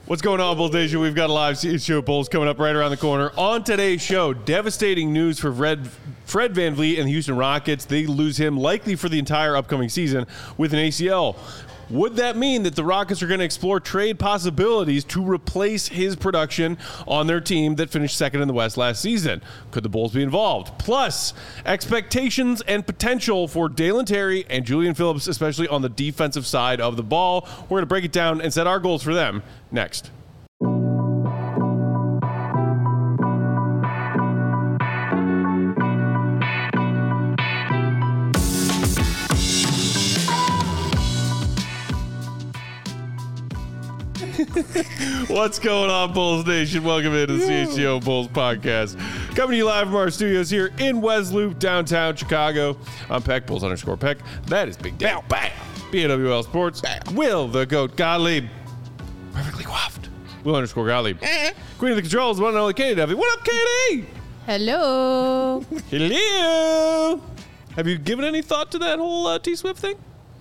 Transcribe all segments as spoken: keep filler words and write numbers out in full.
What's going on, Bulls Nation? We've got a live show Bulls coming up right around the corner. On today's show, devastating news for Fred, Fred VanVleet and the Houston Rockets. They lose him likely for the entire upcoming season with an A C L. Would that mean that the Rockets are going to explore trade possibilities to replace his production on their team that finished second in the West last season? Could the Bulls be involved? Plus, expectations and potential for Dalen Terry and Julian Phillips, especially on the defensive side of the ball. We're going to break it down and set our goals for them next. What's going on, Bulls Nation? Welcome into the C H G O Bulls podcast. Coming to you live from our studios here in West Loop, downtown Chicago. I'm Peck, Bulls underscore Peck. That is Big Dale. Bam. B A W L Sports. Bam. Will the Goat Gottlieb. Perfectly coiffed. Will underscore Gottlieb. Queen of the Controls, one and only Katie Duffy. What up, Katie? Hello. Hello. Have you given any thought to that whole uh, T-Swift thing?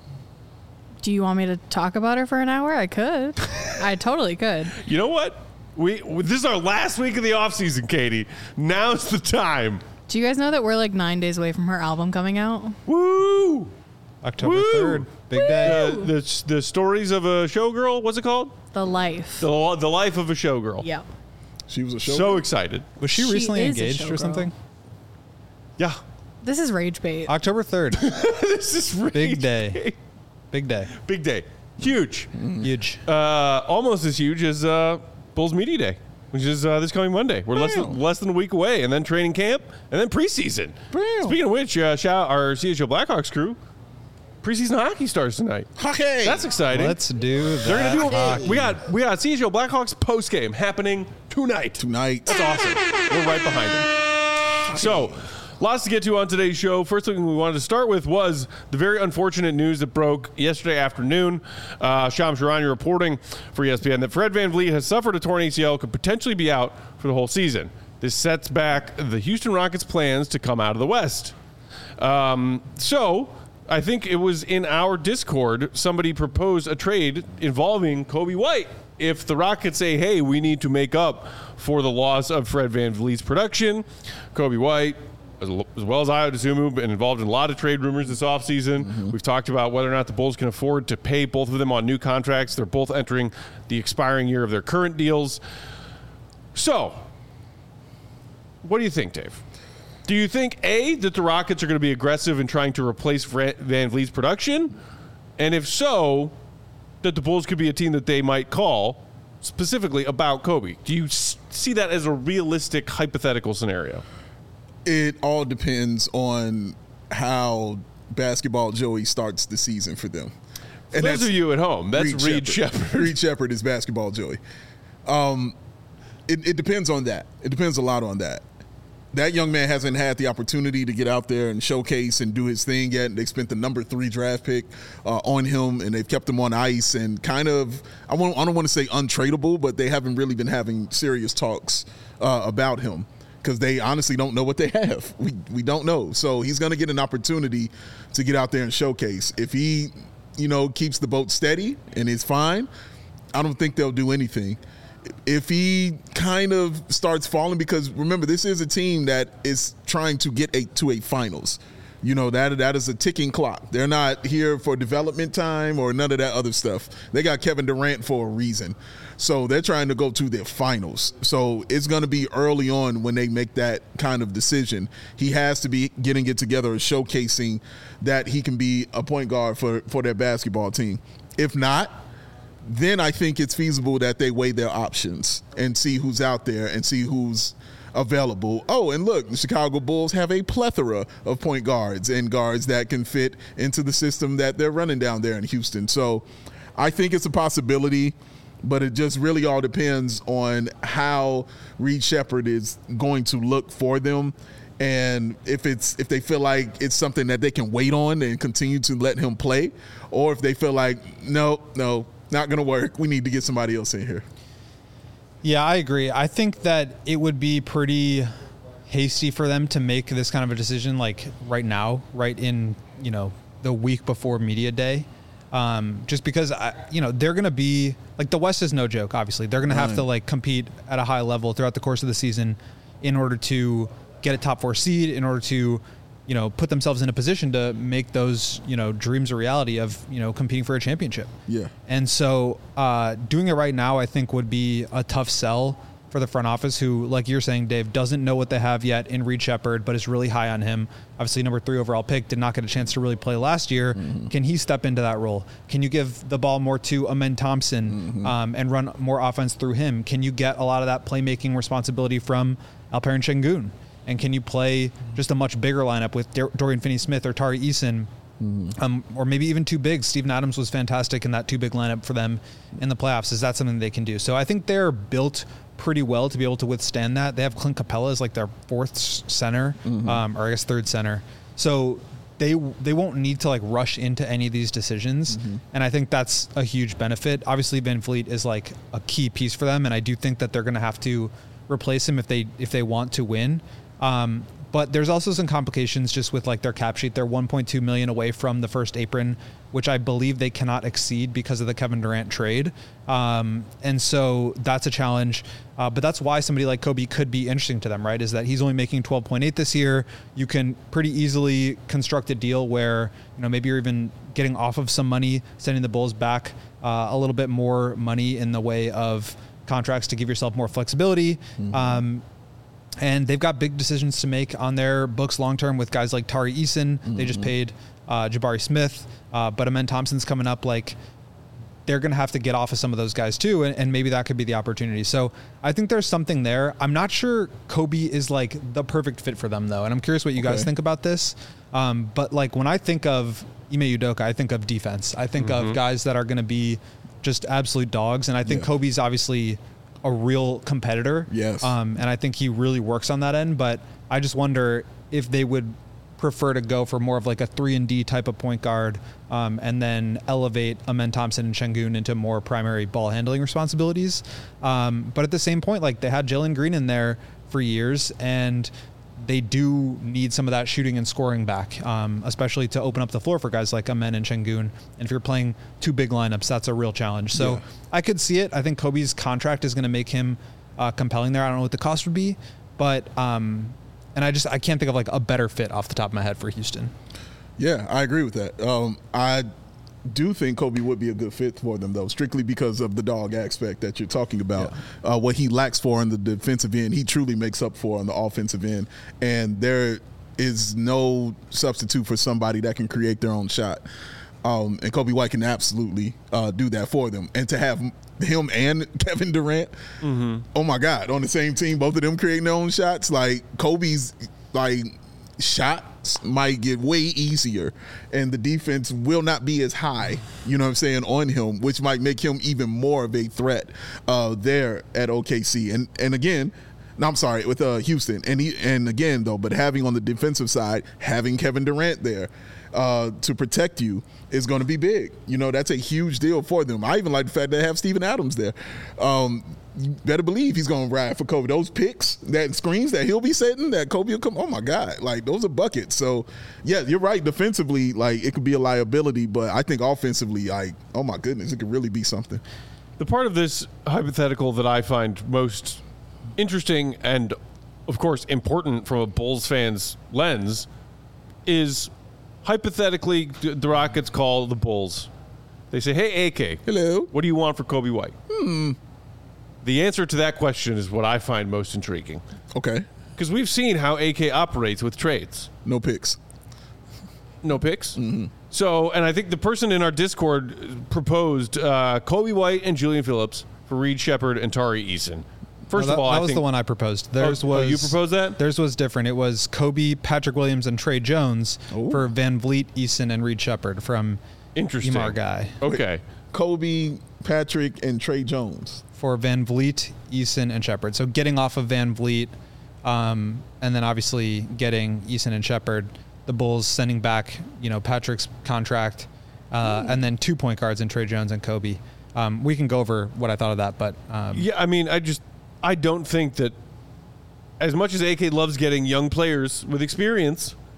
Do you want me to talk about her for an hour? I could. I totally could. You know what? We This is our last week of the offseason, Katie. Now's the time. Do you guys know that we're like nine days away from her album coming out? Woo! October Woo! third. Big Woo! day. Uh, the, the Stories of a Showgirl, what's it called? The Life. The, the Life of a Showgirl. Yep. She was a show. So excited. Was she, She recently is a engaged or showgirl. something? Yeah. This is rage bait. October third. This is really Big day. Big day. Big day. Huge. Huge. Uh, almost as huge as uh, Bulls Media Day, which is uh, this coming Monday. We're less than, less than a week away, and then training camp, and then preseason. Bam. Speaking of which, uh, shout out our C H L Blackhawks crew. Preseason hockey starts tonight. Hockey. That's exciting. Let's do that. They're gonna do. hockey. We got we got C H L Blackhawks post game happening tonight. Tonight. That's awesome. We're right behind them. So, lots to get to on today's show. First thing we wanted to start with was the very unfortunate news that broke yesterday afternoon. Uh, Shams Charania reporting for E S P N that Fred VanVleet has suffered a torn A C L, could potentially be out for the whole season. This sets back the Houston Rockets' plans to come out of the West. Um, so, I think it was in our Discord, somebody proposed a trade involving Coby White. If the Rockets say, hey, we need to make up for the loss of Fred VanVleet's production, Coby White, as well as I would assume, have been involved in a lot of trade rumors this offseason. Mm-hmm. We've talked about whether or not the Bulls can afford to pay both of them on new contracts. They're both entering the expiring year of their current deals. So, what do you think, Dave? Do you think, A, that the Rockets are going to be aggressive in trying to replace VanVleet's production? And if so, that the Bulls could be a team that they might call specifically about Coby? Do you s- see that as a realistic hypothetical scenario? It all depends on how Basketball Joey starts the season for them. For those of you at home, that's Reed, Reed Sheppard. Sheppard. Reed Sheppard is Basketball Joey. Um, it, it depends on that. It depends a lot on that. That young man hasn't had the opportunity to get out there and showcase and do his thing yet. They spent the number three draft pick uh, on him, and they've kept him on ice and kind of, I, won't, I don't want to say untradeable, but they haven't really been having serious talks uh, about him because they honestly don't know what they have. We, we don't know. So he's going to get an opportunity to get out there and showcase. If he, you know, keeps the boat steady and is fine, I don't think they'll do anything. If he kind of starts falling, because remember, this is a team that is trying to get a, to a finals. You know, that that is a ticking clock. They're not here for development time or none of that other stuff. They got Kevin Durant for a reason. So they're trying to go to their finals. So it's going to be early on when they make that kind of decision. He has to be getting it together and showcasing that he can be a point guard for, for their basketball team. If not, then I think it's feasible that they weigh their options and see who's out there and see who's available. Oh, and look, the Chicago Bulls have a plethora of point guards and guards that can fit into the system that they're running down there in Houston. So I think it's a possibility, but it just really all depends on how Reed Sheppard is going to look for them. And if it's if they feel like it's something that they can wait on and continue to let him play, or if they feel like, no, no, not going to work, we need to get somebody else in here. Yeah, I agree. I think that it would be pretty hasty for them to make this kind of a decision like right now, right in, you know, the week before media day. Um, just because, I, you know, they're going to be like the West is no joke. Obviously, they're going to have Right. to like compete at a high level throughout the course of the season in order to get a top four seed, in order to, you know, put themselves in a position to make those, you know, dreams a reality of, you know, competing for a championship. Yeah. And so uh, doing it right now, I think, would be a tough sell for the front office who, like you're saying, Dave, doesn't know what they have yet in Reed Shepherd, but is really high on him. Obviously, number three overall pick, did not get a chance to really play last year. Mm-hmm. Can he step into that role? Can you give the ball more to Amen Thompson mm-hmm. um, and run more offense through him? Can you get a lot of that playmaking responsibility from Alperen Şengün? And can you play just a much bigger lineup with Dorian Finney-Smith or Tari Eason? Mm-hmm. Um, or maybe even two bigs. Steven Adams was fantastic in that two big lineup for them in the playoffs. Is that something they can do? So I think they're built pretty well to be able to withstand that. They have Clint Capella as like their fourth center, mm-hmm. um, or I guess third center. So they they won't need to like rush into any of these decisions. Mm-hmm. And I think that's a huge benefit. Obviously, Van Vliet is like a key piece for them, and I do think that they're going to have to replace him if they if they want to win. Um, but there's also some complications just with like their cap sheet. They're one point two million away from the first apron, which I believe they cannot exceed because of the Kevin Durant trade. Um, and so that's a challenge. Uh, but that's why somebody like Kobe could be interesting to them, right? Is that he's only making twelve point eight this year. You can pretty easily construct a deal where, you know, maybe you're even getting off of some money, sending the Bulls back uh, a little bit more money in the way of contracts to give yourself more flexibility. Mm-hmm. Um, And they've got big decisions to make on their books long-term with guys like Tari Eason. Mm-hmm. They just paid uh, Jabari Smith, uh, but Amen Thompson's coming up. Like, they're going to have to get off of some of those guys too, and, and maybe that could be the opportunity. So I think there's something there. I'm not sure Kobe is like the perfect fit for them though, and I'm curious what you okay. guys think about this. Um, but like when I think of Ime Udoka, I think of defense. I think mm-hmm. of guys that are going to be just absolute dogs, and I think yeah. Kobe's obviously a real competitor. Yes. Um, and I think he really works on that end, but I just wonder if they would prefer to go for more of like a three and D type of point guard, um, and then elevate Amen Thompson and Şengün into more primary ball handling responsibilities. Um, but at the same point, like they had Jalen Green in there for years, and they do need some of that shooting and scoring back, um, especially to open up the floor for guys like Amen and Şengün. And if you're playing two big lineups, that's a real challenge. So yeah. I could see it. I think Kobe's contract is going to make him uh, compelling there. I don't know what the cost would be, but um, and I just I can't think of like a better fit off the top of my head for Houston. Yeah, I agree with that. Um, I do think Kobe would be a good fit for them, though, strictly because of the dog aspect that you're talking about. Yeah. Uh, what he lacks for on the defensive end, he truly makes up for on the offensive end. And there is no substitute for somebody that can create their own shot. Um, and Kobe White can absolutely uh, do that for them. And to have him and Kevin Durant, mm-hmm. oh, my God, on the same team, both of them creating their own shots, like Kobe's, like, shot might get way easier and the defense will not be as high, you know what I'm saying, on him, which might make him even more of a threat uh, there at O K C. And and again, no, I'm sorry, with uh, Houston. And he, and again, though, but having on the defensive side, having Kevin Durant there uh, to protect you is going to be big. You know, that's a huge deal for them. I even like the fact that they have Steven Adams there. Um, you better believe he's going to ride for Kobe. Those picks, that screens that he'll be setting, that Kobe will come, oh, my God, like, those are buckets. So, yeah, you're right. Defensively, like, it could be a liability, but I think offensively, like, oh, my goodness, it could really be something. The part of this hypothetical that I find most interesting and, of course, important from a Bulls fan's lens is hypothetically the Rockets call the Bulls. They say, hey, A K. Hello. What do you want for Kobe White? Hmm. The answer to that question is what I find most intriguing. Okay. Because we've seen how A K operates with trades. No picks. No picks? Mm-hmm. So, and I think the person in our Discord proposed uh, Kobe White and Julian Phillips for Reed Shepherd and Tari Eason. First no, that, of all, that I was think, the one I proposed. Theirs oh, was oh, you proposed that? Theirs was different. It was Kobe, Patrick Williams, and Trey Jones Ooh. for Van Vliet, Eason, and Reed Shepherd from Interesting. Emar Guy. Okay. Wait, Kobe, Patrick, and Trey Jones. For Van Vliet, Eason, and Shepherd. So getting off of Van Vliet, um, and then obviously getting Eason and Shepherd, the Bulls sending back, you know, Patrick's contract, uh, and then two point guards in Trey Jones and Kobe. Um, we can go over what I thought of that, but um, yeah, I mean, I just I don't think that as much as A K loves getting young players with experience,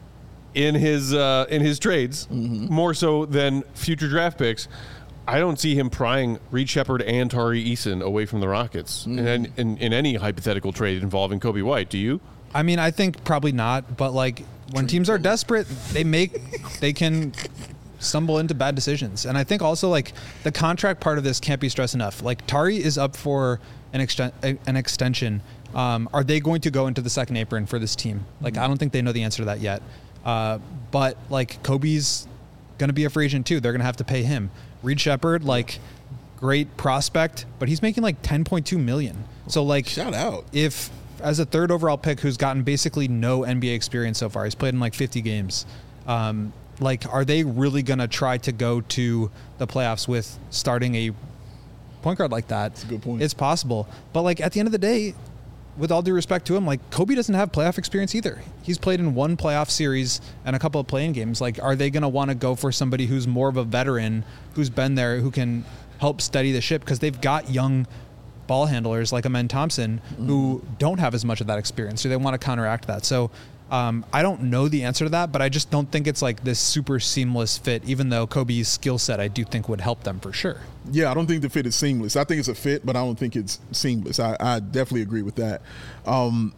in his uh, in his trades, mm-hmm. more so than future draft picks. I don't see him prying Reed Sheppard and Tari Eason away from the Rockets mm-hmm. in, in in any hypothetical trade involving Coby White. Do you? I mean, I think probably not. But like when teams are desperate, they make they can stumble into bad decisions. And I think also like the contract part of this can't be stressed enough. Like Tari is up for an exten- an extension. Um, are they going to go into the second apron for this team? Like mm-hmm. I don't think they know the answer to that yet. Uh, but like Coby's going to be a free agent too. They're going to have to pay him. Reed Sheppard, like great prospect, but he's making like ten point two million. So like shout out. If as a third overall pick who's gotten basically no N B A experience so far, he's played in like fifty games. Um, like, are they really going to try to go to the playoffs with starting a point guard like that? That's a good point. It's possible. But like at the end of the day, with all due respect to him, like Coby doesn't have playoff experience either. He's played in one playoff series and a couple of play-in games. Like, are they going to want to go for somebody who's more of a veteran, who's been there, who can help steady the ship? Because they've got young ball handlers like Amen Thompson mm. who don't have as much of that experience. So they want to counteract that. So um, I don't know the answer to that, but I just don't think it's like this super seamless fit, even though Coby's skill set I do think would help them for sure. Yeah, I don't think the fit is seamless. I think it's a fit, but I don't think it's seamless. I, I definitely agree with that. Um,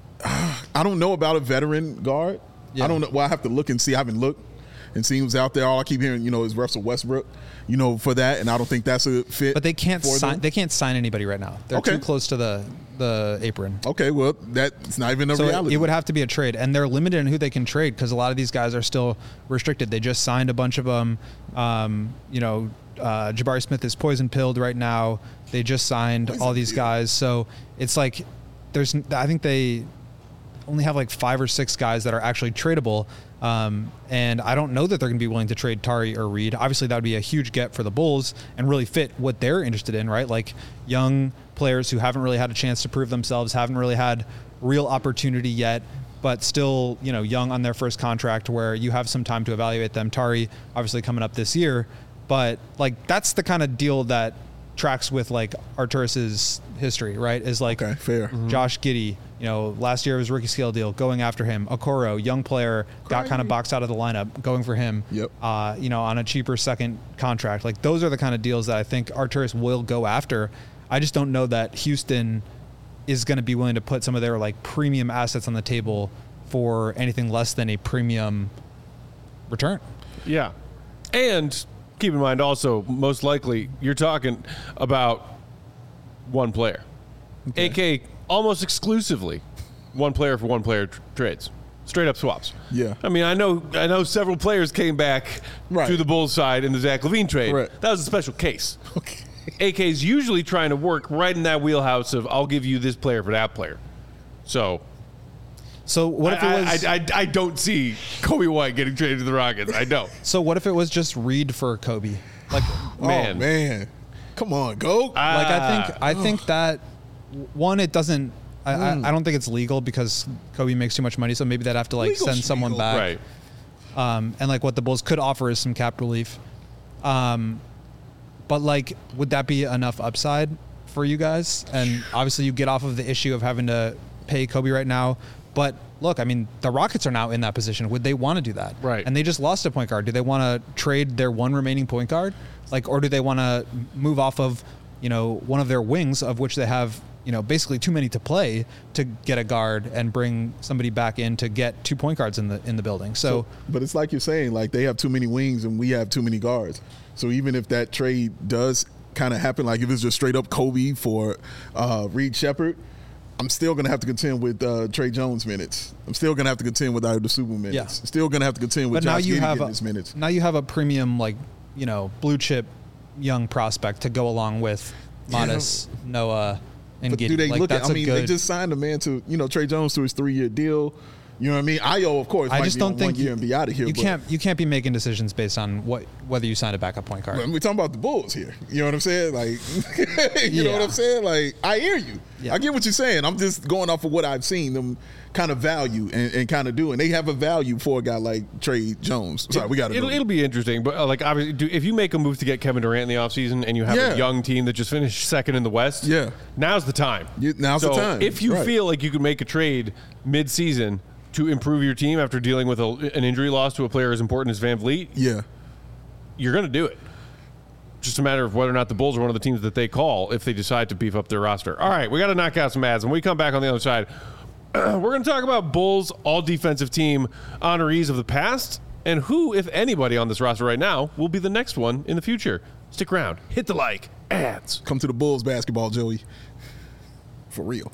I don't know about a veteran guard. Yeah. I don't know. Well, I have to look and see. I haven't looked and seen who's out there. All I keep hearing, you know, is Russell Westbrook, you know, for that, and I don't think that's a fit. But they can't sign. them. They can't sign anybody right now. They're okay. too close to the the apron. Okay, well, that's not even a so reality. It, it would have to be a trade, and they're limited in who they can trade because a lot of these guys are still restricted. They just signed a bunch of them. Um, you know, uh, Jabari Smith is poison pilled right now. They just signed poison all these guys, so it's like there's. I think they only have like five or six guys that are actually tradable. Um, and I don't know that they're going to be willing to trade Tari or Reed. Obviously, that would be a huge get for the Bulls and really fit what they're interested in, right? Like young players who haven't really had a chance to prove themselves, haven't really had real opportunity yet, but still, you know, young on their first contract where you have some time to evaluate them. Tari, obviously coming up this year, but like that's the kind of deal that tracks with like Arturas's history, right? Is like okay, fair. Mm-hmm. Josh Giddey, you know, last year was rookie scale deal, going after him. Okoro, young player, got kind of boxed out of the lineup, going for him. Yep. Uh, you know, on a cheaper second contract. Like those are the kind of deals that I think Arturas will go after. I just don't know that Houston is going to be willing to put some of their like premium assets on the table for anything less than a premium return. Yeah. And keep in mind also, most likely, you're talking about one player. Okay. A K almost exclusively one player for one player tr- trades. Straight up swaps. Yeah. I mean, I know I know several players came back right. to the Bulls side in the Zach LaVine trade. Correct. That was a special case. Okay. A K's usually trying to work right in that wheelhouse of I'll give you this player for that player. So So what if it was? I, I, I, I don't see Coby White getting traded to the Rockets. I don't. So what if it was just Reed for Coby? Like, man, oh, man, come on, go! Ah. like I think I think that one, it doesn't. I, Mm. I, I don't think it's legal because Coby makes too much money. So maybe they'd have to like Legal send someone legal. back. right. Um, and like what the Bulls could offer is some cap relief. Um, but like, would that be enough upside for you guys? And obviously, you get off of the issue of having to pay Coby right now. But look, I mean, the Rockets are now in that position. Would they want to do that? Right. And they just lost a point guard. Do they want to trade their one remaining point guard? Like, or do they want to move off of, you know, one of their wings, of which they have, you know, basically too many to play, to get a guard and bring somebody back in to get two point guards in the in the building. So, So, but it's like you're saying, like they have too many wings and we have too many guards. So even if that trade does kind of happen, like if it's just straight up Coby for uh, Reed Sheppard, I'm still going to have to contend with uh, Trey Jones minutes. I'm still going to have to contend with Ida Super minutes. Yeah. Still going to have to contend with but now Josh you Giddey have getting a, his minutes. now you have a premium, like, you know, blue chip young prospect to go along with Modest, yeah. Noah, and But Giddey. do they like, look that's at? I a mean, good, they just signed a man to, you know, Trey Jones to his three-year deal. You know what I mean? Io, of course, I might just be don't on think one year you, and be out of here. you but can't you can't be making decisions based on what whether you signed a backup point guard. we're talking about the Bulls here. You know what I'm saying? Like, you know Yeah. what I'm saying? Like, I hear you. Yeah. I get what you're saying. I'm just going off of what I've seen them kind of value and, and kind of do. And they have a value for a guy like Trey Jones. Sorry, we got to It'll, it'll be interesting, but uh, like obviously, do, if you make a move to get Kevin Durant in the offseason and you have Yeah. a young team that just finished second in the West, Yeah. now's the time. You- now's so the time. If you Right. feel like you could make a trade mid-season, to improve your team after dealing with a, an injury loss to a player as important as Van Vliet, Yeah. you're going to do it. Just a matter of whether or not the Bulls are one of the teams that they call if they decide to beef up their roster. All right, we got to knock out some ads. When we come back on the other side, we're going to talk about Bulls all-defensive team honorees of the past and who, if anybody on this roster right now, will be the next one in the future. Stick around. Hit the like. Ads. Come to the Bulls basketball, Joey. For real.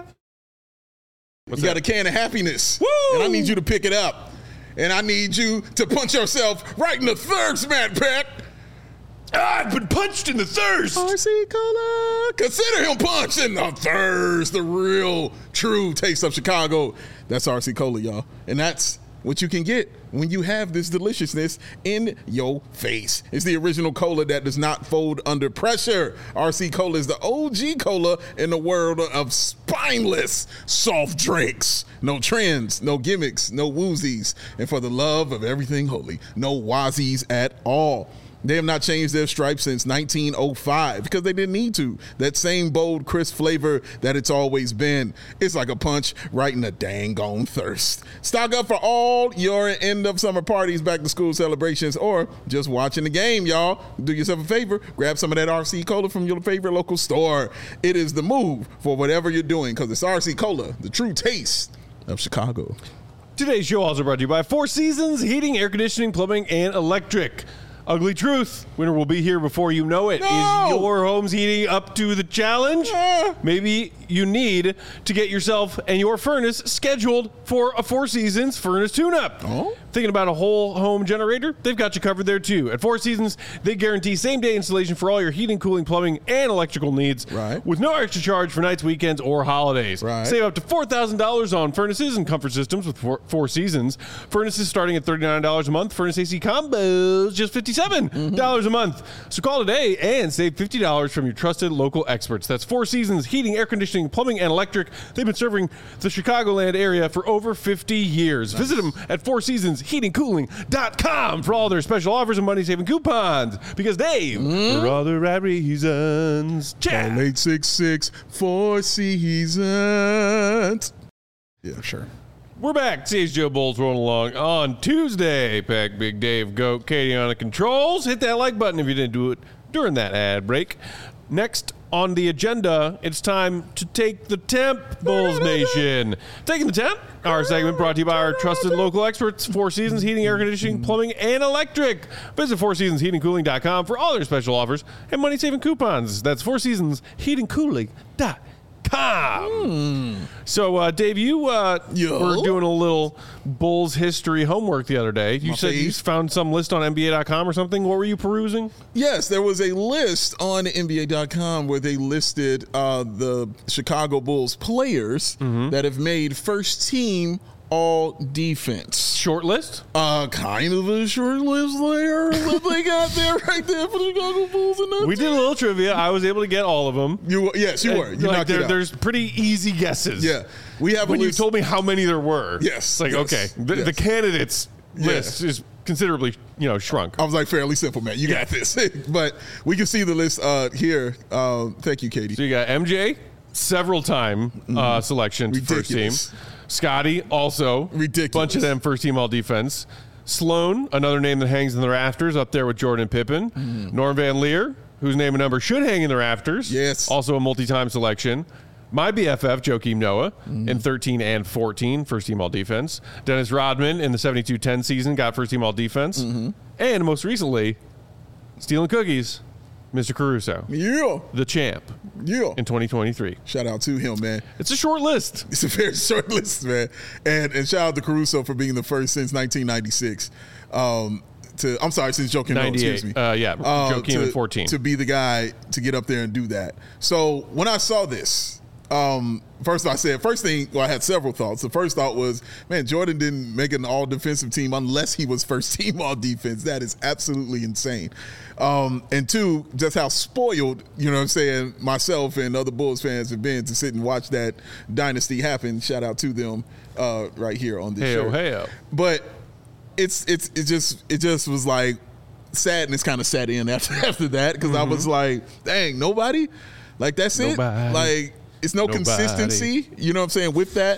What's you that? got a can of happiness. Woo! And I need you to pick it up. And I need you to punch yourself right in the thirst, Matt Peck. I've been punched in the thirst. R C Cola. Consider him punched in the thirst. The real, true taste of Chicago. That's R C Cola, y'all. And that's what you can get when you have this deliciousness in your face. It's the original cola that does not fold under pressure. R C Cola is the O G cola in the world of spineless soft drinks. No trends, no gimmicks, no woozies. And for the love of everything holy, no wazies at all. They have not changed their stripes since nineteen oh five because they didn't need to. That same bold, crisp flavor that it's always been. It's like a punch right in the dang on thirst. Stock up for all your end of summer parties, back to school celebrations, or just watching the game, y'all. Do yourself a favor. Grab some of that R C Cola from your favorite local store. It is the move for whatever you're doing because it's R C Cola, the true taste of Chicago. Today's show also brought to you by Four Seasons Heating, Air Conditioning, Plumbing, and Electric. Ugly truth, winter will be here before you know it. No! Is your home's heating up to the challenge? Yeah. Maybe you need to get yourself and your furnace scheduled for a Four Seasons furnace tune-up. Oh? Thinking about a whole home generator? They've got you covered there too. At Four Seasons, they guarantee same-day installation for all your heating, cooling, plumbing, and electrical needs. Right. With no extra charge for nights, weekends, or holidays. Right. Save up to four thousand dollars on furnaces and comfort systems with Four, Four Seasons. Furnaces starting at thirty-nine dollars a month. Furnace A C combos just fifty-seven dollars a month. So call today and save fifty dollars from your trusted local experts. That's Four Seasons Heating, Air Conditioning, Plumbing, and Electric. They've been serving the Chicagoland area for over fifty years. Nice. Visit them at four seasons heating cooling dot com for all their special offers and money-saving coupons. Because Dave, mm. for all the right reasons. Chat. eight six six Four Seasons. Yeah, for sure. We're back. C H G O Bulls rolling along on Tuesday. Pack Big Dave, Goat, Katie on the controls. Hit that like button if you didn't do it during that ad break. Next on the agenda, it's time to take the temp, Bulls Nation. Taking the temp, our segment brought to you by our trusted local experts, Four Seasons Heating, Air Conditioning, Plumbing, and Electric. Visit four seasons heating cooling dot com for all their special offers and money-saving coupons. That's four seasons heating cooling dot com. Mm. So, uh, Dave, you uh, were doing a little Bulls history homework the other day. You My said face. you found some list on N B A dot com or something. What were you perusing? Yes, there was a list on N B A dot com where they listed uh, the Chicago Bulls players Mm-hmm. that have made first team all defense. Short list? Uh, kind of a short list there that they got there right there for the Chicago Bulls. And We did a little trivia. I was able to get all of them. You were- yes, you were. You Like, knocked it there- out. There's pretty easy guesses. Yeah, we have When a you list. told me how many there were. Yes, It's like, yes, okay, the, yes. the candidates Yeah. list is considerably, you know, shrunk. I was like, fairly simple, man. You got this. But we can see the list uh, here. Uh, thank you, Katie. So you got M J, several time uh, selections first team. Ridiculous. Scotty, also. Ridiculous. Bunch of them first team all defense. Sloan, another name that hangs in the rafters, up there with Jordan and Pippen. Mm. Norm Van Leer, whose name and number should hang in the rafters. Yes. Also a multi-time selection. My B F F, Joakim Noah, Mm. in thirteen and fourteen, first team all defense. Dennis Rodman in the seventy-two ten season got first team all defense. Mm-hmm. And most recently, stealing cookies, Mister Caruso, Yeah, the champ yeah. in twenty twenty-three. Shout out to him, man. It's a short list. It's a very short list, man. And and shout out to Caruso for being the first since nineteen ninety-six. Um, to I'm sorry, since Joakim Noah, excuse me. ninety-eight. Uh, yeah, Uh, Joakim to, in fourteen. to be the guy to get up there and do that. So when I saw this, um, first I said, first thing, well, I had several thoughts. The first thought was, man, Jordan didn't make an all defensive team unless he was first team all defense. That is absolutely insane. Um, and two, just how spoiled, you know what I'm saying, myself and other Bulls fans have been to sit and watch that dynasty happen. Shout out to them uh, right here on this Heyo, show. heyo. But it's it's it just it just was like sadness kind of set in after after that because I was like, dang, nobody, like that's Nobody. it, like it's no Nobody. consistency, you know what I'm saying, with that.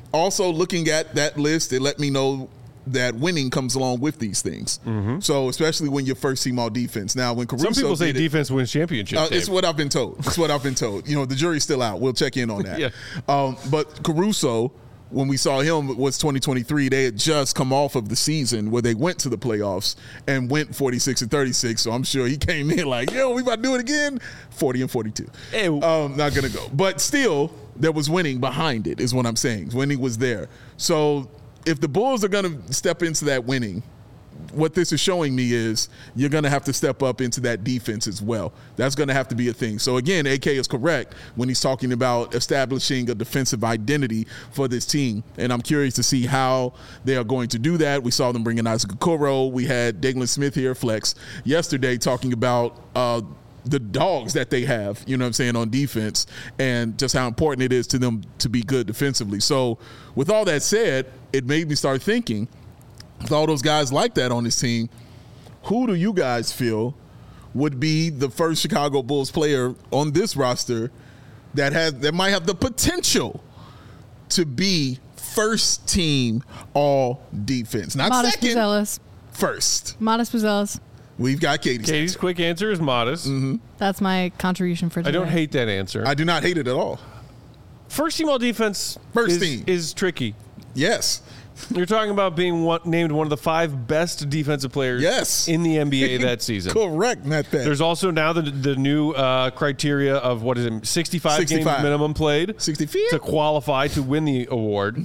also looking at that list, it let me know that winning comes along with these things. Mm-hmm. So especially when you're first team all defense. Now, when Caruso some people say did defense it, wins championships. uh, it's what I've been told. It's what I've been told. You know, the jury's still out. We'll check in on that. Yeah. Um, but Caruso, when we saw him, was twenty twenty-three. They had just come off of the season where they went to the playoffs and went forty-six and thirty-six. So I'm sure he came in like, yo, we about to do it again. forty and forty-two. Hey. Um, not gonna go. But still, there was winning behind it. Is what I'm saying. Winning was there. So if the Bulls are going to step into that winning, what this is showing me is you're going to have to step up into that defense as well. That's going to have to be a thing. So, again, A K is correct when he's talking about establishing a defensive identity for this team. And I'm curious to see how they are going to do that. We saw them bring in Isaac Okoro. We had Daglin Smith here, Flex, yesterday talking about uh, the dogs that they have, you know what I'm saying, on defense and just how important it is to them to be good defensively. So, with all that said, it made me start thinking, with all those guys like that on this team, who do you guys feel would be the first Chicago Bulls player on this roster that has that might have the potential to be first team all defense? Not Modest second, Buzelis. first. Modest Buzelis. We've got Katie's. Katie's quick answer is modest. Mm-hmm. That's my contribution for today. I don't hate that answer. I do not hate it at all. First team all defense First is, team. is tricky. Yes. You're talking about being one, named one of the five best defensive players Yes. in the N B A that season. Correct, Matt Penn. There's also now the the new uh, criteria of what is it, sixty-five, sixty-five games minimum played sixty-five to qualify to win the award.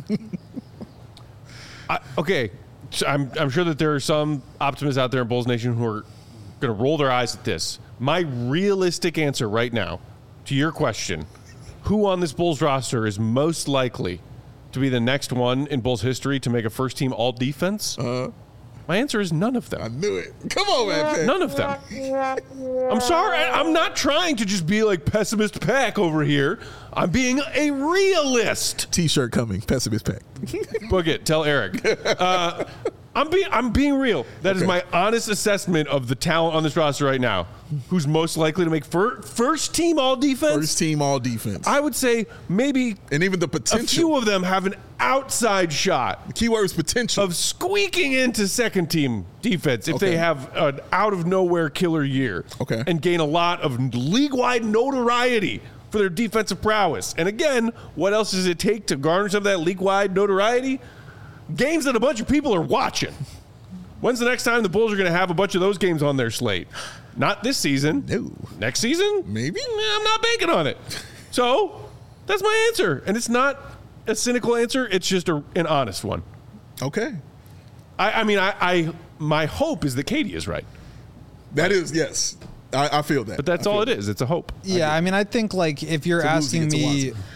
I, okay, so I'm I'm sure that there are some optimists out there in Bulls Nation who are going to roll their eyes at this. My realistic answer right now to your question, who on this Bulls roster is most likely to be the next one in Bulls history to make a first team all defense? Uh, My answer is none of them. I knew it. Come on, man. None of them. I'm sorry. I, I'm not trying to just be like pessimist pack over here. I'm being a realist. T-shirt coming. Pessimist pack. Book it. Tell Eric. Uh, I'm being I'm being real. That Okay. is my honest assessment of the talent on this roster right now. Who's most likely to make fir- first team all defense? First team all defense. I would say maybe and even the a potential. few of them have an outside shot The key word is potential. of squeaking into second team defense if Okay. they have an out of nowhere killer year. Okay. And gain a lot of league wide notoriety for their defensive prowess. And again, what else does it take to garner some of that league wide notoriety? Games that a bunch of people are watching. When's the next time the Bulls are going to have a bunch of those games on their slate? Not this season. No. Next season? Maybe. Nah, I'm not banking on it. So that's my answer. And it's not a cynical answer. It's just a, an honest one. Okay. I, I mean, I, I my hope is that Katie is right. That is, yes. I, I feel that. But that's I all feel it is. It's a hope. Yeah, I mean, I think like if you're It's a losing, asking it's a me, Watson.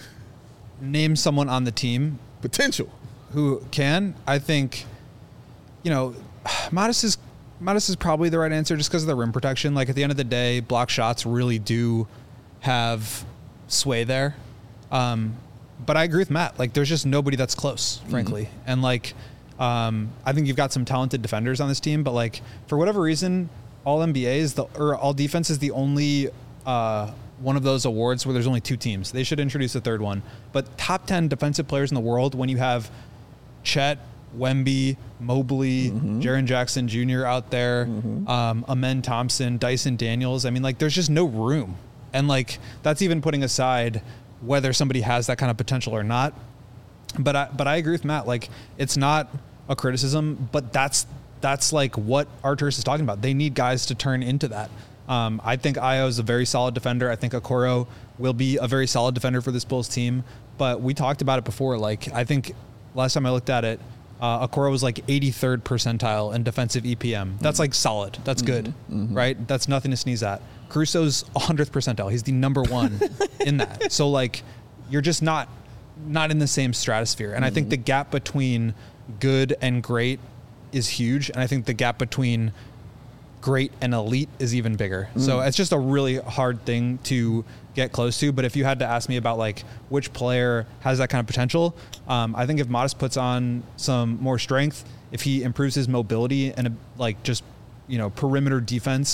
name someone on the team Potential. who can, I think, you know, Modest is Modest is probably the right answer just because of the rim protection. Like at the end of the day, block shots really do have sway there. Um, but I agree with Matt. Like there's just nobody that's close, frankly. Mm-hmm. And like, um, I think you've got some talented defenders on this team, but like for whatever reason, all N B A is the or all defense is the only uh, one of those awards where there's only two teams. They should introduce a third one. But top ten defensive players in the world, when you have Chet, Wemby, Mobley, mm-hmm. Jaren Jackson Junior out there, mm-hmm. um, Amen Thompson, Dyson Daniels. I mean, like, there's just no room. And, like, that's even putting aside whether somebody has that kind of potential or not. But I, but I agree with Matt. Like, it's not a criticism, but that's, that's like, what Arturus is talking about. They need guys to turn into that. Um, I think Ayo is a very solid defender. I think Okoro will be a very solid defender for this Bulls team. But we talked about it before. Like, I think last time I looked at it, Uh, Okoro was like eighty-third percentile in defensive E P M. That's like solid. That's good, mm-hmm. right? That's nothing to sneeze at. Caruso's one hundredth percentile. He's the number one in that. So like, you're just not not in the same stratosphere. And mm-hmm. I think the gap between good and great is huge. And I think the gap between great and elite is even bigger. Mm. So it's just a really hard thing to get close to. But if you had to ask me about like which player has that kind of potential, um, I think if Modest puts on some more strength, if he improves his mobility and uh, like just, you know, perimeter defense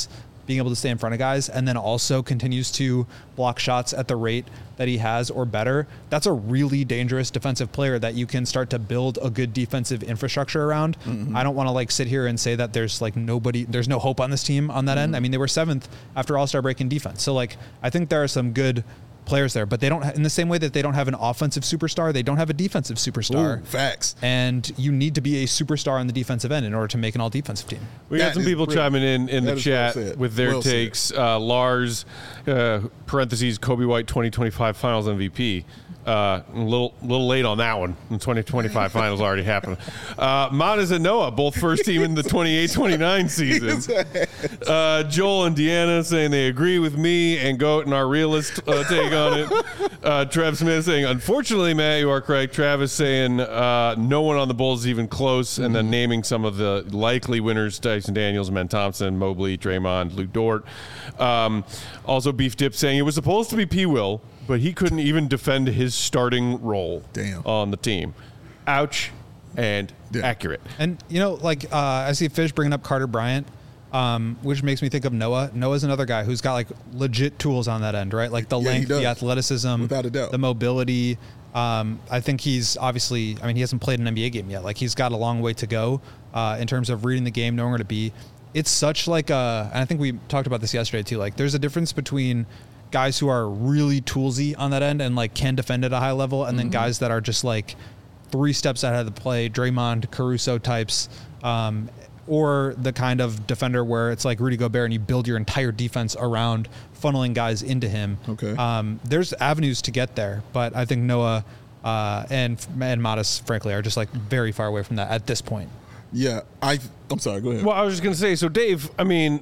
being able to stay in front of guys, and then also continues to block shots at the rate that he has or better, that's a really dangerous defensive player that you can start to build a good defensive infrastructure around. Mm-hmm. I don't want to like sit here and say that there's like nobody, there's no hope on this team on that mm-hmm. end. I mean, they were seventh after All-Star break in defense. So like, I think there are some good players there, but they don't, in the same way that they don't have an offensive superstar, they don't have a defensive superstar. Ooh, facts. And you need to be a superstar on the defensive end in order to make an all-defensive team. We got That some is people brilliant. chiming in in That the is well chat said. with their Well said. takes. Uh, Lars, uh, parentheses, Kobe White twenty twenty-five Finals M V P. Uh, a little little late on that one. The twenty twenty-five Finals already happened. Uh, Monas and Noah, both first team in the twenty-eight twenty-nine season. Uh, Joel and Deanna saying they agree with me and Goat and our realist uh, take on it. Uh, Trev Smith saying, unfortunately, Matt, you are correct. Travis saying uh, no one on the Bulls is even close, and then naming some of the likely winners: Tyson Daniels, Men Thompson, Mobley, Draymond, Luke Dort. Um, also, Beef Dip saying it was supposed to be P. Will, but he couldn't even defend his starting role Damn. on the team. Ouch, and Yeah. accurate. And, you know, like uh, I see Fish bringing up Carter Bryant, um, which makes me think of Noah. Noah's another guy who's got like legit tools on that end, right? Like the Yeah, he length, does. the athleticism, Without a doubt. the mobility. Um, I think he's obviously, I mean, he hasn't played an N B A game yet. Like he's got a long way to go uh, in terms of reading the game, knowing where to be. It's such like a, and I think we talked about this yesterday too. Like there's a difference between guys who are really toolsy on that end and like can defend at a high level, and then guys that are just like three steps ahead of the play, Draymond, Caruso types, um, or the kind of defender where it's like Rudy Gobert and you build your entire defense around funneling guys into him. Okay. Um, there's avenues to get there, but I think Noah uh, and and Modest, frankly, are just like very far away from that at this point. Yeah, I. I'm sorry. Go ahead. Well, I was just going to say, so Dave, I mean,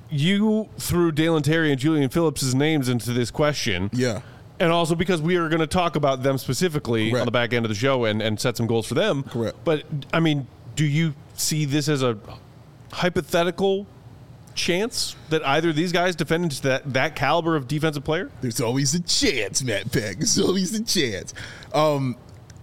you threw Dalen Terry and Julian Phillips' names into this question. Yeah. And also because we are going to talk about them specifically Correct. on the back end of the show and, and set some goals for them. Correct. But, I mean, do you see this as a hypothetical chance that either of these guys defend into that, that caliber of defensive player? There's always a chance, Matt Peck. There's always a chance. Um,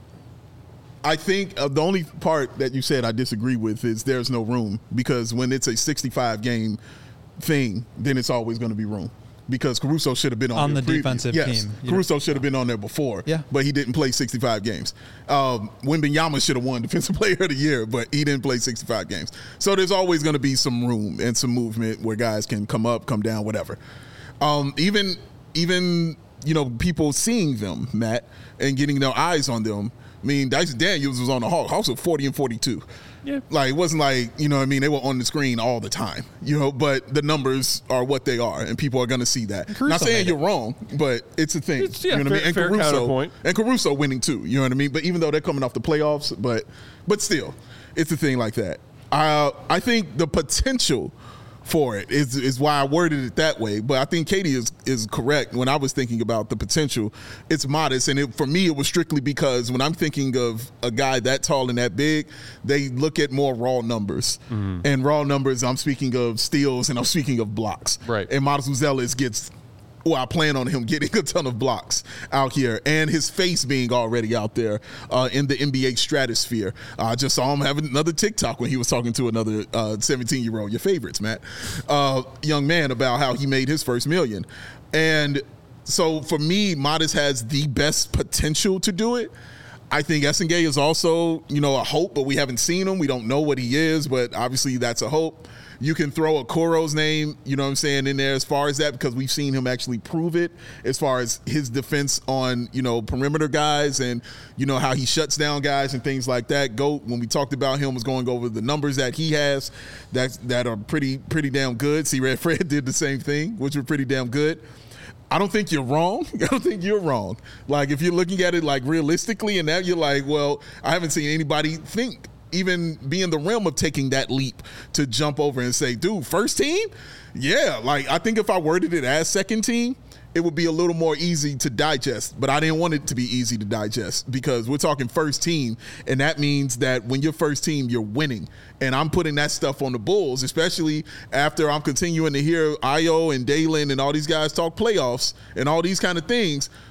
I think uh, the only part that you said I disagree with is there's no room, because when it's a sixty-five game thing, then it's always going to be room. Because Caruso should have been on, On there the previous- defensive yes, team. Caruso should have been on there before, Yeah. but he didn't play sixty-five games. Um, Wembanyama should have won Defensive Player of the Year, but he didn't play sixty-five games. So there's always going to be some room and some movement where guys can come up, come down, whatever. Um, even even you know people seeing them, Matt, and getting their eyes on them. I mean, Dyson Daniels was on the Hawks, also forty and forty-two. Yeah. Like, it wasn't like, you know what I mean, they were on the screen all the time, you know, but the numbers are what they are, and people are going to see that. Caruso Not saying made you're wrong, but it's a thing. It's- yeah, you know what I fair- mean? And fair Caruso, counterpoint. and Caruso winning too, you know what I mean? But even though they're coming off the playoffs, but but still, it's a thing like that. Uh, I think the potential for it is is why I worded it that way. But I think Katie is is correct when I was thinking about the potential. It's modest, and it, for me, it was strictly because when I'm thinking of a guy that tall and that big, they look at more raw numbers. Mm-hmm. And raw numbers, I'm speaking of steals and I'm speaking of blocks. Right. And Modest Uzelis gets. Well, I plan on him getting a ton of blocks out here, and his face being already out there uh, in the N B A stratosphere. I uh, just saw him having another TikTok when he was talking to another seventeen-year-old, your favorites, Matt, uh, young man, about how he made his first million. And so for me, Modest has the best potential to do it. I think Essengay is also, you know, a hope, but we haven't seen him. We don't know what he is, but obviously that's a hope. You can throw a Koro's name, you know what I'm saying, in there as far as that, because we've seen him actually prove it as far as his defense on, you know, perimeter guys and, you know, how he shuts down guys and things like that. Goat, when we talked about him, was going over the numbers that he has that, that are pretty, pretty damn good. See, Red Fred did the same thing, which were pretty damn good. I don't think you're wrong. I don't think you're wrong. Like, if you're looking at it, like, realistically, and that you're like, well, I haven't seen anybody think, even be in the realm of taking that leap to jump over and say, dude, first team? Yeah, like, I think if I worded it as second team, it would be a little more easy to digest, but I didn't want it to be easy to digest because we're talking first team, and that means that when you're first team, you're winning. And I'm putting that stuff on the Bulls, especially after I'm continuing to hear Io and Dalen and all these guys talk playoffs and all these kind of things.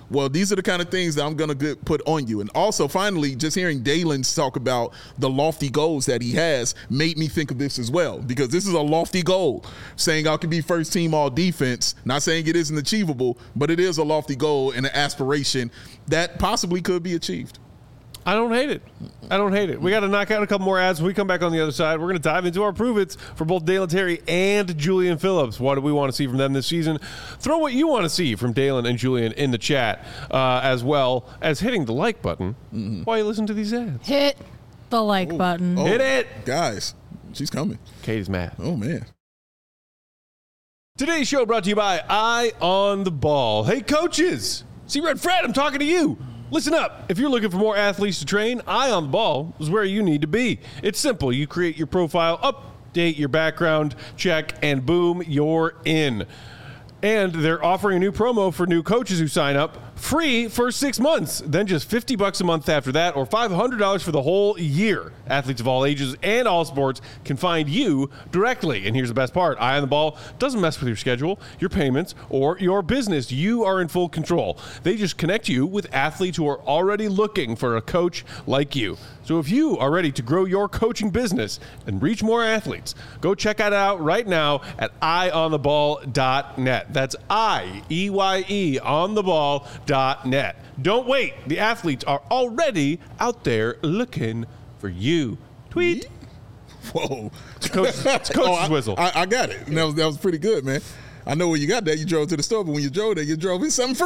well, these are the kind of things that I'm going to put on you. And also, finally, just hearing Dalen talk about the lofty goals that he has made me think of this as well, because this is a lofty goal, saying I could be first team all defense. Not saying it isn't achievable, but it is a lofty goal and an aspiration that possibly could be achieved. I don't hate it. I don't hate it. We got to knock out a couple more ads. When we come back on the other side, we're going to dive into our prove-its for both Dalen Terry and Julian Phillips. What do we want to see from them this season? Throw what you want to see from Dalen and Julian in the chat, uh, as well as hitting the like button mm-hmm. while you listen to these ads. Hit the like oh, button. Oh, Hit it. Guys, she's coming. Katie's mad. Oh, man. Today's show brought to you by Eye on the Ball. Hey, coaches. See, Red Fred, I'm talking to you. Listen up. If you're looking for more athletes to train, Eye on the Ball is where you need to be. It's simple. You create your profile, update your background check, and boom, you're in. And they're offering a new promo for new coaches who sign up, free for six months, then just fifty bucks a month after that, or five hundred dollars for the whole year. Athletes of all ages and all sports can find you directly. And here's the best part. Eye on the Ball doesn't mess with your schedule, your payments, or your business. You are in full control. They just connect you with athletes who are already looking for a coach like you. So if you are ready to grow your coaching business and reach more athletes, go check it out right now at eye on the ball dot net. That's I E Y E on the ball dot net. Don't wait. The athletes are already out there looking for you. Tweet. Whoa. It's coach's, it's coach's oh, I, whistle. I, I got it. That was, that was pretty good, man. I know where you got that. You drove to the store, but when you drove there, you drove in something from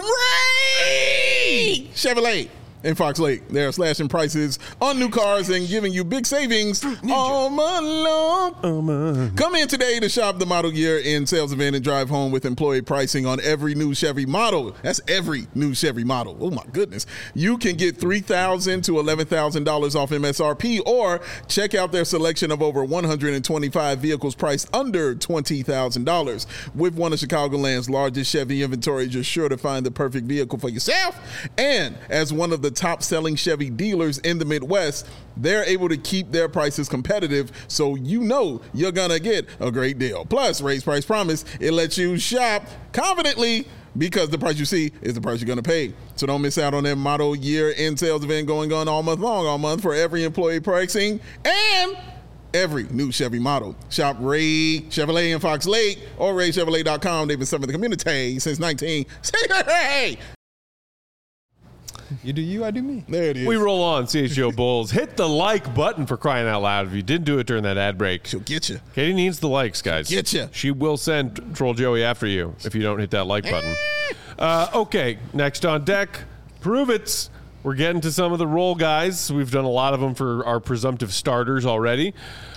Ray Chevrolet in Fox Lake. They're slashing prices on new cars and giving you big savings all month long. Oh, man. Come in today to shop the model year in sales event and drive home with employee pricing on every new Chevy model. That's every new Chevy model. Oh, my goodness. You can get three thousand dollars to eleven thousand dollars off M S R P, or check out their selection of over one hundred twenty-five vehicles priced under twenty thousand dollars. With one of Chicagoland's largest Chevy inventories, you're sure to find the perfect vehicle for yourself. And as one of the top-selling Chevy dealers in the Midwest, they're able to keep their prices competitive, so you know you're gonna get a great deal. Plus, Ray's Price Promise, it lets you shop confidently because the price you see is the price you're gonna pay. So don't miss out on that model year in sales event going on all month long, all month for every employee pricing and every new Chevy model. Shop Ray Chevrolet in Fox Lake or ray chevrolet dot com. They've been serving the community since nineteen sixty-eight. You do you, I do me. There it is. We roll on, C H G O Bulls. Hit the like button for crying out loud. If you didn't do it during that ad break, She'll get you. Katie needs the likes, guys. She'll get you. She will send Troll Joey after you if you don't hit that like button. Uh, okay, next on deck, Prove It. We're getting to some of the role guys. We've done a lot of them for our presumptive starters already.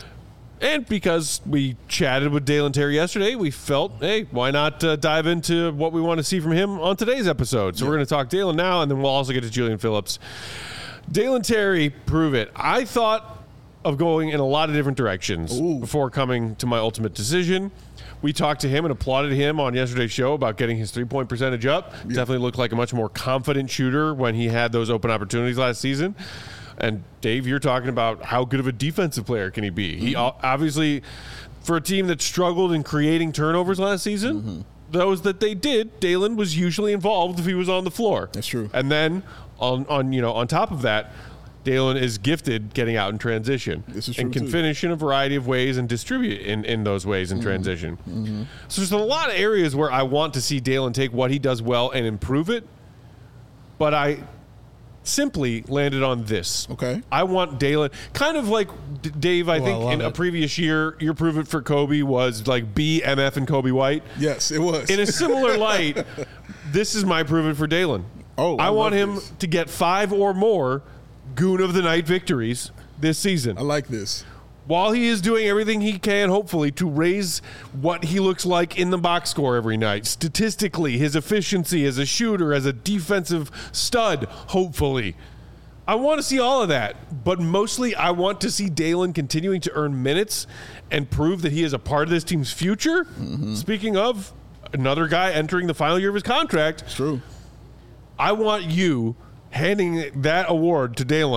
And because we chatted with Dalen Terry yesterday, we felt, hey, why not uh, dive into what we want to see from him on today's episode? So yeah. We're going to talk Dalen now, and then we'll also get to Julian Phillips. Dalen Terry, Prove It. I thought of going in a lot of different directions Ooh. before coming to my ultimate decision. We talked to him and applauded him on yesterday's show about getting his three-point percentage up. Yeah. Definitely looked like a much more confident shooter when he had those open opportunities last season. And Dave, you're talking about how good of a defensive player can he be? Mm-hmm. He obviously, for a team that struggled in creating turnovers last season, mm-hmm. those that they did, Dalen was usually involved if he was on the floor. That's true. And then on, on you know on top of that, Dalen is gifted getting out in transition this is true and can too. finish in a variety of ways and distribute in, in those ways in mm-hmm. transition. Mm-hmm. So there's a lot of areas where I want to see Dalen take what he does well and improve it, but I simply landed on this. Okay. I want Dalen, kind of like D- Dave, I Oh, think I in love a it. previous year, your Prove It for Kobe was like B, M F, and Kobe White. Yes, it was. In a similar light, this is my Prove It for Dalen. Oh, I I want love him this. to get five or more Goon of the Night victories this season. I like this. While he is doing everything he can, hopefully, to raise what he looks like in the box score every night. Statistically, his efficiency as a shooter, as a defensive stud, hopefully. I want to see all of that, but mostly I want to see Dalen continuing to earn minutes and prove that he is a part of this team's future. Mm-hmm. Speaking of another guy entering the final year of his contract, It's true. I want you handing that award to Dalen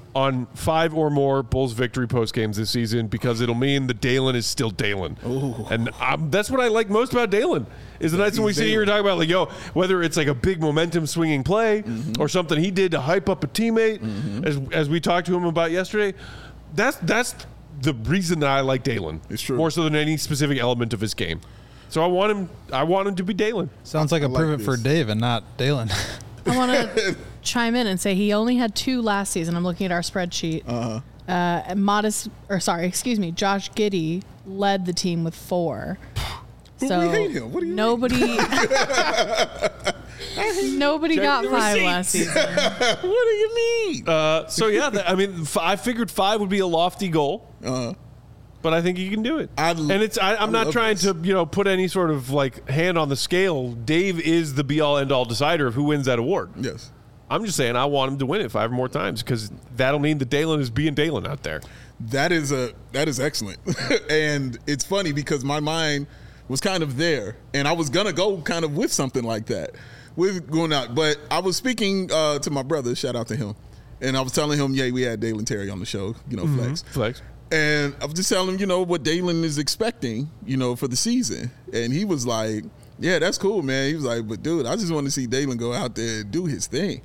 on five or more Bulls victory post games this season because it'll mean that Dalen is still Dalen. Ooh. And um, that's what I like most about Dalen is the nights when we sit here and talk about, like, yo, whether it's like a big momentum swinging play mm-hmm. or something he did to hype up a teammate, mm-hmm. as as we talked to him about yesterday, that's that's the reason that I like Dalen. It's true. More so than any specific element of his game. So I want him I want him to be Dalen. Sounds like I a like prove it this. for Dave and not Dalen. I want to chime in and say he only had two last season. I'm looking at our spreadsheet. Uh-huh. Uh, and modest, or sorry, excuse me, Josh Giddey led the team with four. But so we hate him. What do you nobody, nobody Check got the five receipts. last season. What do you mean? Uh, so yeah, that, I mean, f- I figured five would be a lofty goal. Uh-huh. But I think he can do it. I and it's I, I'm I not love trying this. to, you know, put any sort of like hand on the scale. Dave is the be all end all decider of who wins that award. Yes. I'm just saying I want him to win it five more times because that'll mean that Dalen is being Dalen out there. That is a that is excellent. And it's funny because my mind was kind of there and I was gonna go kind of with something like that. With going out. But I was speaking uh, to my brother, shout out to him. And I was telling him, yeah, we had Dalen Terry on the show, you know, Flex. Flex. And I was just telling him, you know, what Dalen is expecting, you know, for the season. And he was like, yeah, that's cool, man. He was like, but dude, I just want to see Dalen go out there and do his thing.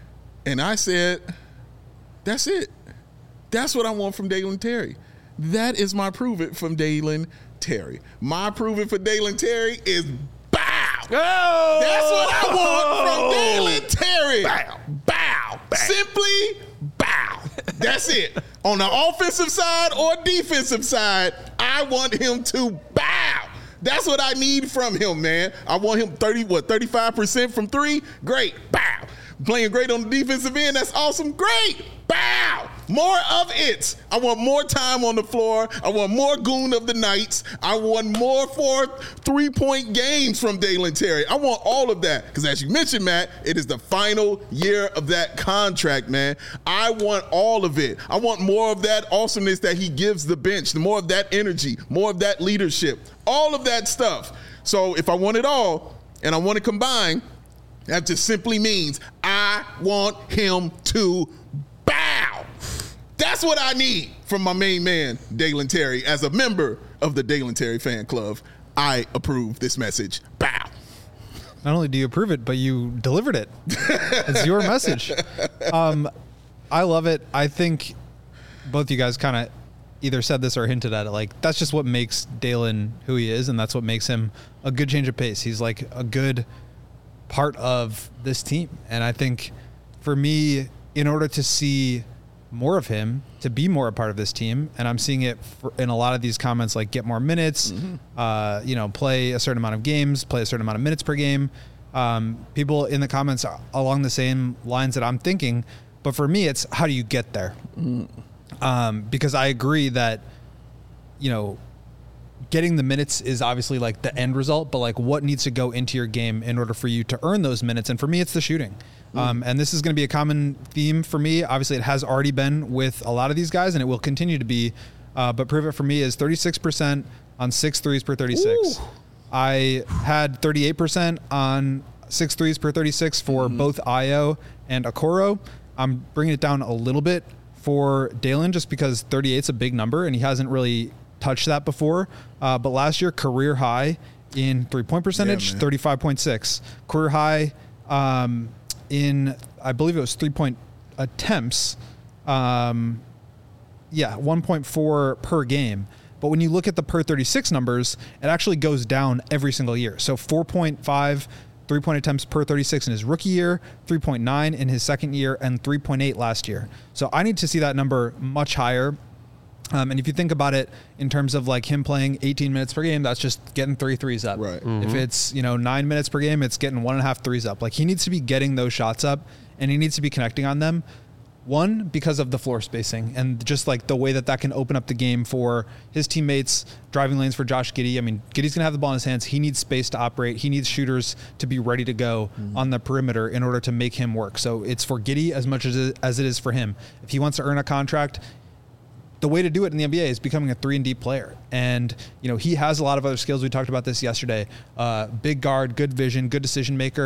And I said, that's it. That's what I want from Dalen Terry. That is my prove it from Dalen Terry. My prove it for Dalen Terry is bow. Oh! That's what I want from Dalen Terry. Bow. Bow. Bow. Simply bow. That's it. On the offensive side or defensive side, I want him to bow. That's what I need from him, man. I want him thirty, what, thirty-five percent from three? Great. Bow. Playing great on the defensive end. That's awesome. Great. Bow. More of it. I want more time on the floor. I want more goon of the nights. I want more for three-point games from Dalen Terry. I want all of that because, as you mentioned, Matt, it is the final year of that contract, man. I want all of it. I want more of that awesomeness that he gives the bench, more of that energy, more of that leadership, all of that stuff. So if I want it all and I want to combine, that just simply means I want him to bow. That's what I need from my main man, Dalen Terry. As a member of the Dalen Terry fan club, I approve this message. Bow. Not only do you approve it, but you delivered it. It's your message. Um, I love it. I think both you guys kind of either said this or hinted at it. Like, that's just what makes Dalen who he is, and that's what makes him a good change of pace. He's like a good part of this team. And I think for me, in order to see more of him, to be more a part of this team, and I'm seeing it for, in a lot of these comments, like get more minutes, mm-hmm. uh, you know, play a certain amount of games, play a certain amount of minutes per game. Um, people in the comments are along the same lines that I'm thinking. But for me, it's how do you get there? Mm-hmm. Um, because I agree that, you know, getting the minutes is obviously like the end result, but like what needs to go into your game in order for you to earn those minutes? And for me, it's the shooting. Mm. Um, and this is going to be a common theme for me. Obviously, it has already been with a lot of these guys, and it will continue to be. Uh, but prove it for me is thirty-six percent on six threes per thirty-six. Ooh. I had thirty-eight percent on six threes per thirty-six for mm. both Ayo and Okoro. I'm bringing it down a little bit for Dalen just because thirty-eight is a big number, and he hasn't really touched that before. Uh, but last year, career high in three-point percentage, yeah, thirty-five point six. Career high um, in, I believe it was three-point attempts. Um, yeah, one point four per game. But when you look at the per thirty-six numbers, it actually goes down every single year. So four point five three-point attempts per thirty-six in his rookie year, three point nine in his second year, and three point eight last year. So I need to see that number much higher. Um, and if you think about it in terms of like him playing eighteen minutes per game, that's just getting three threes up. Right. Mm-hmm. If it's, you know, nine minutes per game, it's getting one and a half threes up. Like he needs to be getting those shots up and he needs to be connecting on them. One, because of the floor spacing and just like the way that that can open up the game for his teammates, driving lanes for Josh Giddey. I mean, Giddey's going to have the ball in his hands. He needs space to operate. He needs shooters to be ready to go mm-hmm. on the perimeter in order to make him work. So it's for Giddey as much as it, as it is for him. If he wants to earn a contract, the way to do it in the N B A is becoming a three and D player. And, you know, he has a lot of other skills. We talked about this yesterday. Uh, big guard, good vision, good decision maker,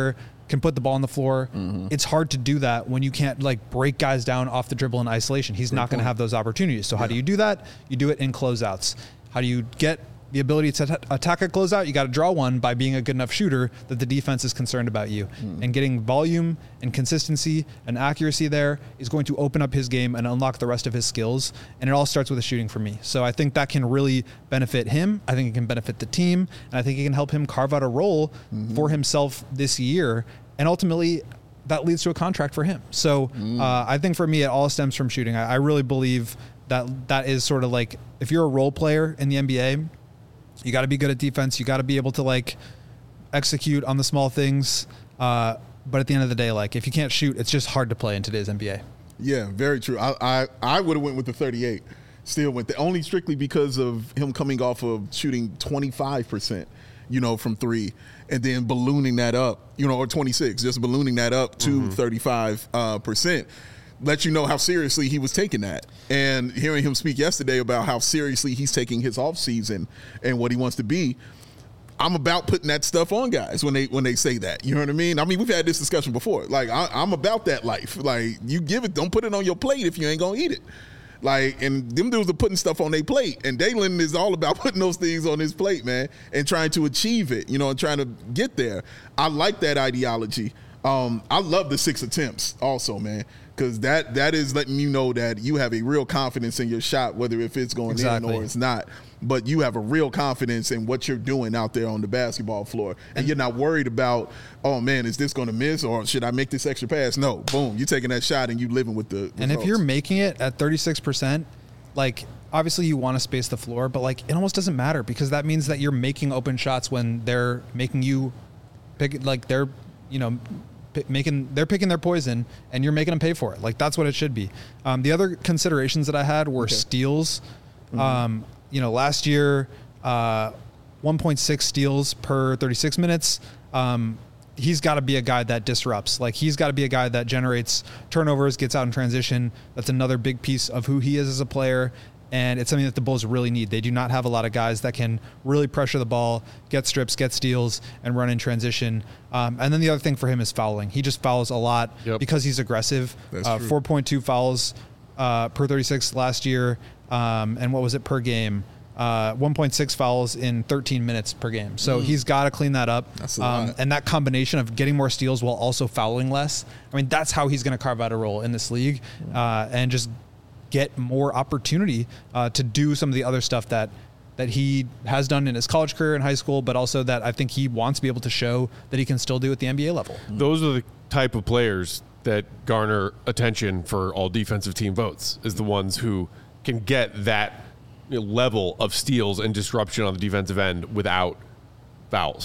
can put the ball on the floor. Mm-hmm. It's hard to do that when you can't like break guys down off the dribble in isolation. He's Great not going to point. have those opportunities. So how do you do that? You do it in closeouts. How do you get the ability to t- attack a closeout? You got to draw one by being a good enough shooter that the defense is concerned about you. Mm. And getting volume and consistency and accuracy there is going to open up his game and unlock the rest of his skills. And it all starts with the shooting for me. So I think that can really benefit him. I think it can benefit the team. And I think it can help him carve out a role Mm-hmm. for himself this year. And ultimately, that leads to a contract for him. So Mm. uh, I think for me, it all stems from shooting. I, I really believe that that is sort of like, if you're a role player in the N B A, you got to be good at defense. You got to be able to like execute on the small things. Uh, but at the end of the day, like if you can't shoot, it's just hard to play in today's N B A. Yeah, very true. I I, I would have went with the thirty-eight. Still went the only strictly because of him coming off of shooting twenty-five percent, you know, from three, and then ballooning that up, you know, or twenty-six, just ballooning that up to Mm-hmm. thirty-five uh, percent. Let you know how seriously he was taking that. And hearing him speak yesterday about how seriously he's taking his off season and what he wants to be, I'm about putting that stuff on guys when they when they say that. You know what I mean? I mean, we've had this discussion before. Like, I, I'm about that life. Like, you give it, don't put it on your plate if you ain't gonna eat it. Like, and them dudes are putting stuff on their plate, and Dalen is all about putting those things on his plate, man, and trying to achieve it. You know, and trying to get there. I like that ideology. Um, I love the six attempts also, man. Because that that is letting you know that you have a real confidence in your shot, whether if it's going Exactly. in or it's not. But you have a real confidence in what you're doing out there on the basketball floor. And, and you're not worried about, oh, man, is this going to miss or should I make this extra pass? No, boom, you're taking that shot and you living with the results. And if you're making it at thirty-six percent, like obviously you want to space the floor, but like it almost doesn't matter because that means that you're making open shots when they're making you pick, like they're, you know, p- making, they're picking their poison and you're making them pay for it. Like that's what it should be. Um, the other considerations that I had were Okay. steals. Mm-hmm. Um, you know, last year, uh, one point six steals per thirty-six minutes. Um, he's got to be a guy that disrupts. Like he's got to be a guy that generates turnovers, gets out in transition. That's another big piece of who he is as a player. And it's something that the Bulls really need. They do not have a lot of guys that can really pressure the ball, get strips, get steals, and run in transition. Um, and then the other thing for him is fouling. He just fouls a lot Yep. because he's aggressive. That's uh, true. four point two fouls uh, per thirty-six last year. Um, and what was it per game? Uh, one point six fouls in thirteen minutes per game. So Mm. he's got to clean that up. That's a um, lot. and that combination of getting more steals while also fouling less. I mean, that's how he's going to carve out a role in this league uh, and just get more opportunity uh, to do some of the other stuff that that he has done in his college career in high school, but also that I think he wants to be able to show that he can still do at the N B A level. Those are the type of players that garner attention for all defensive team votes, is the ones who can get that you know, level of steals and disruption on the defensive end without fouls,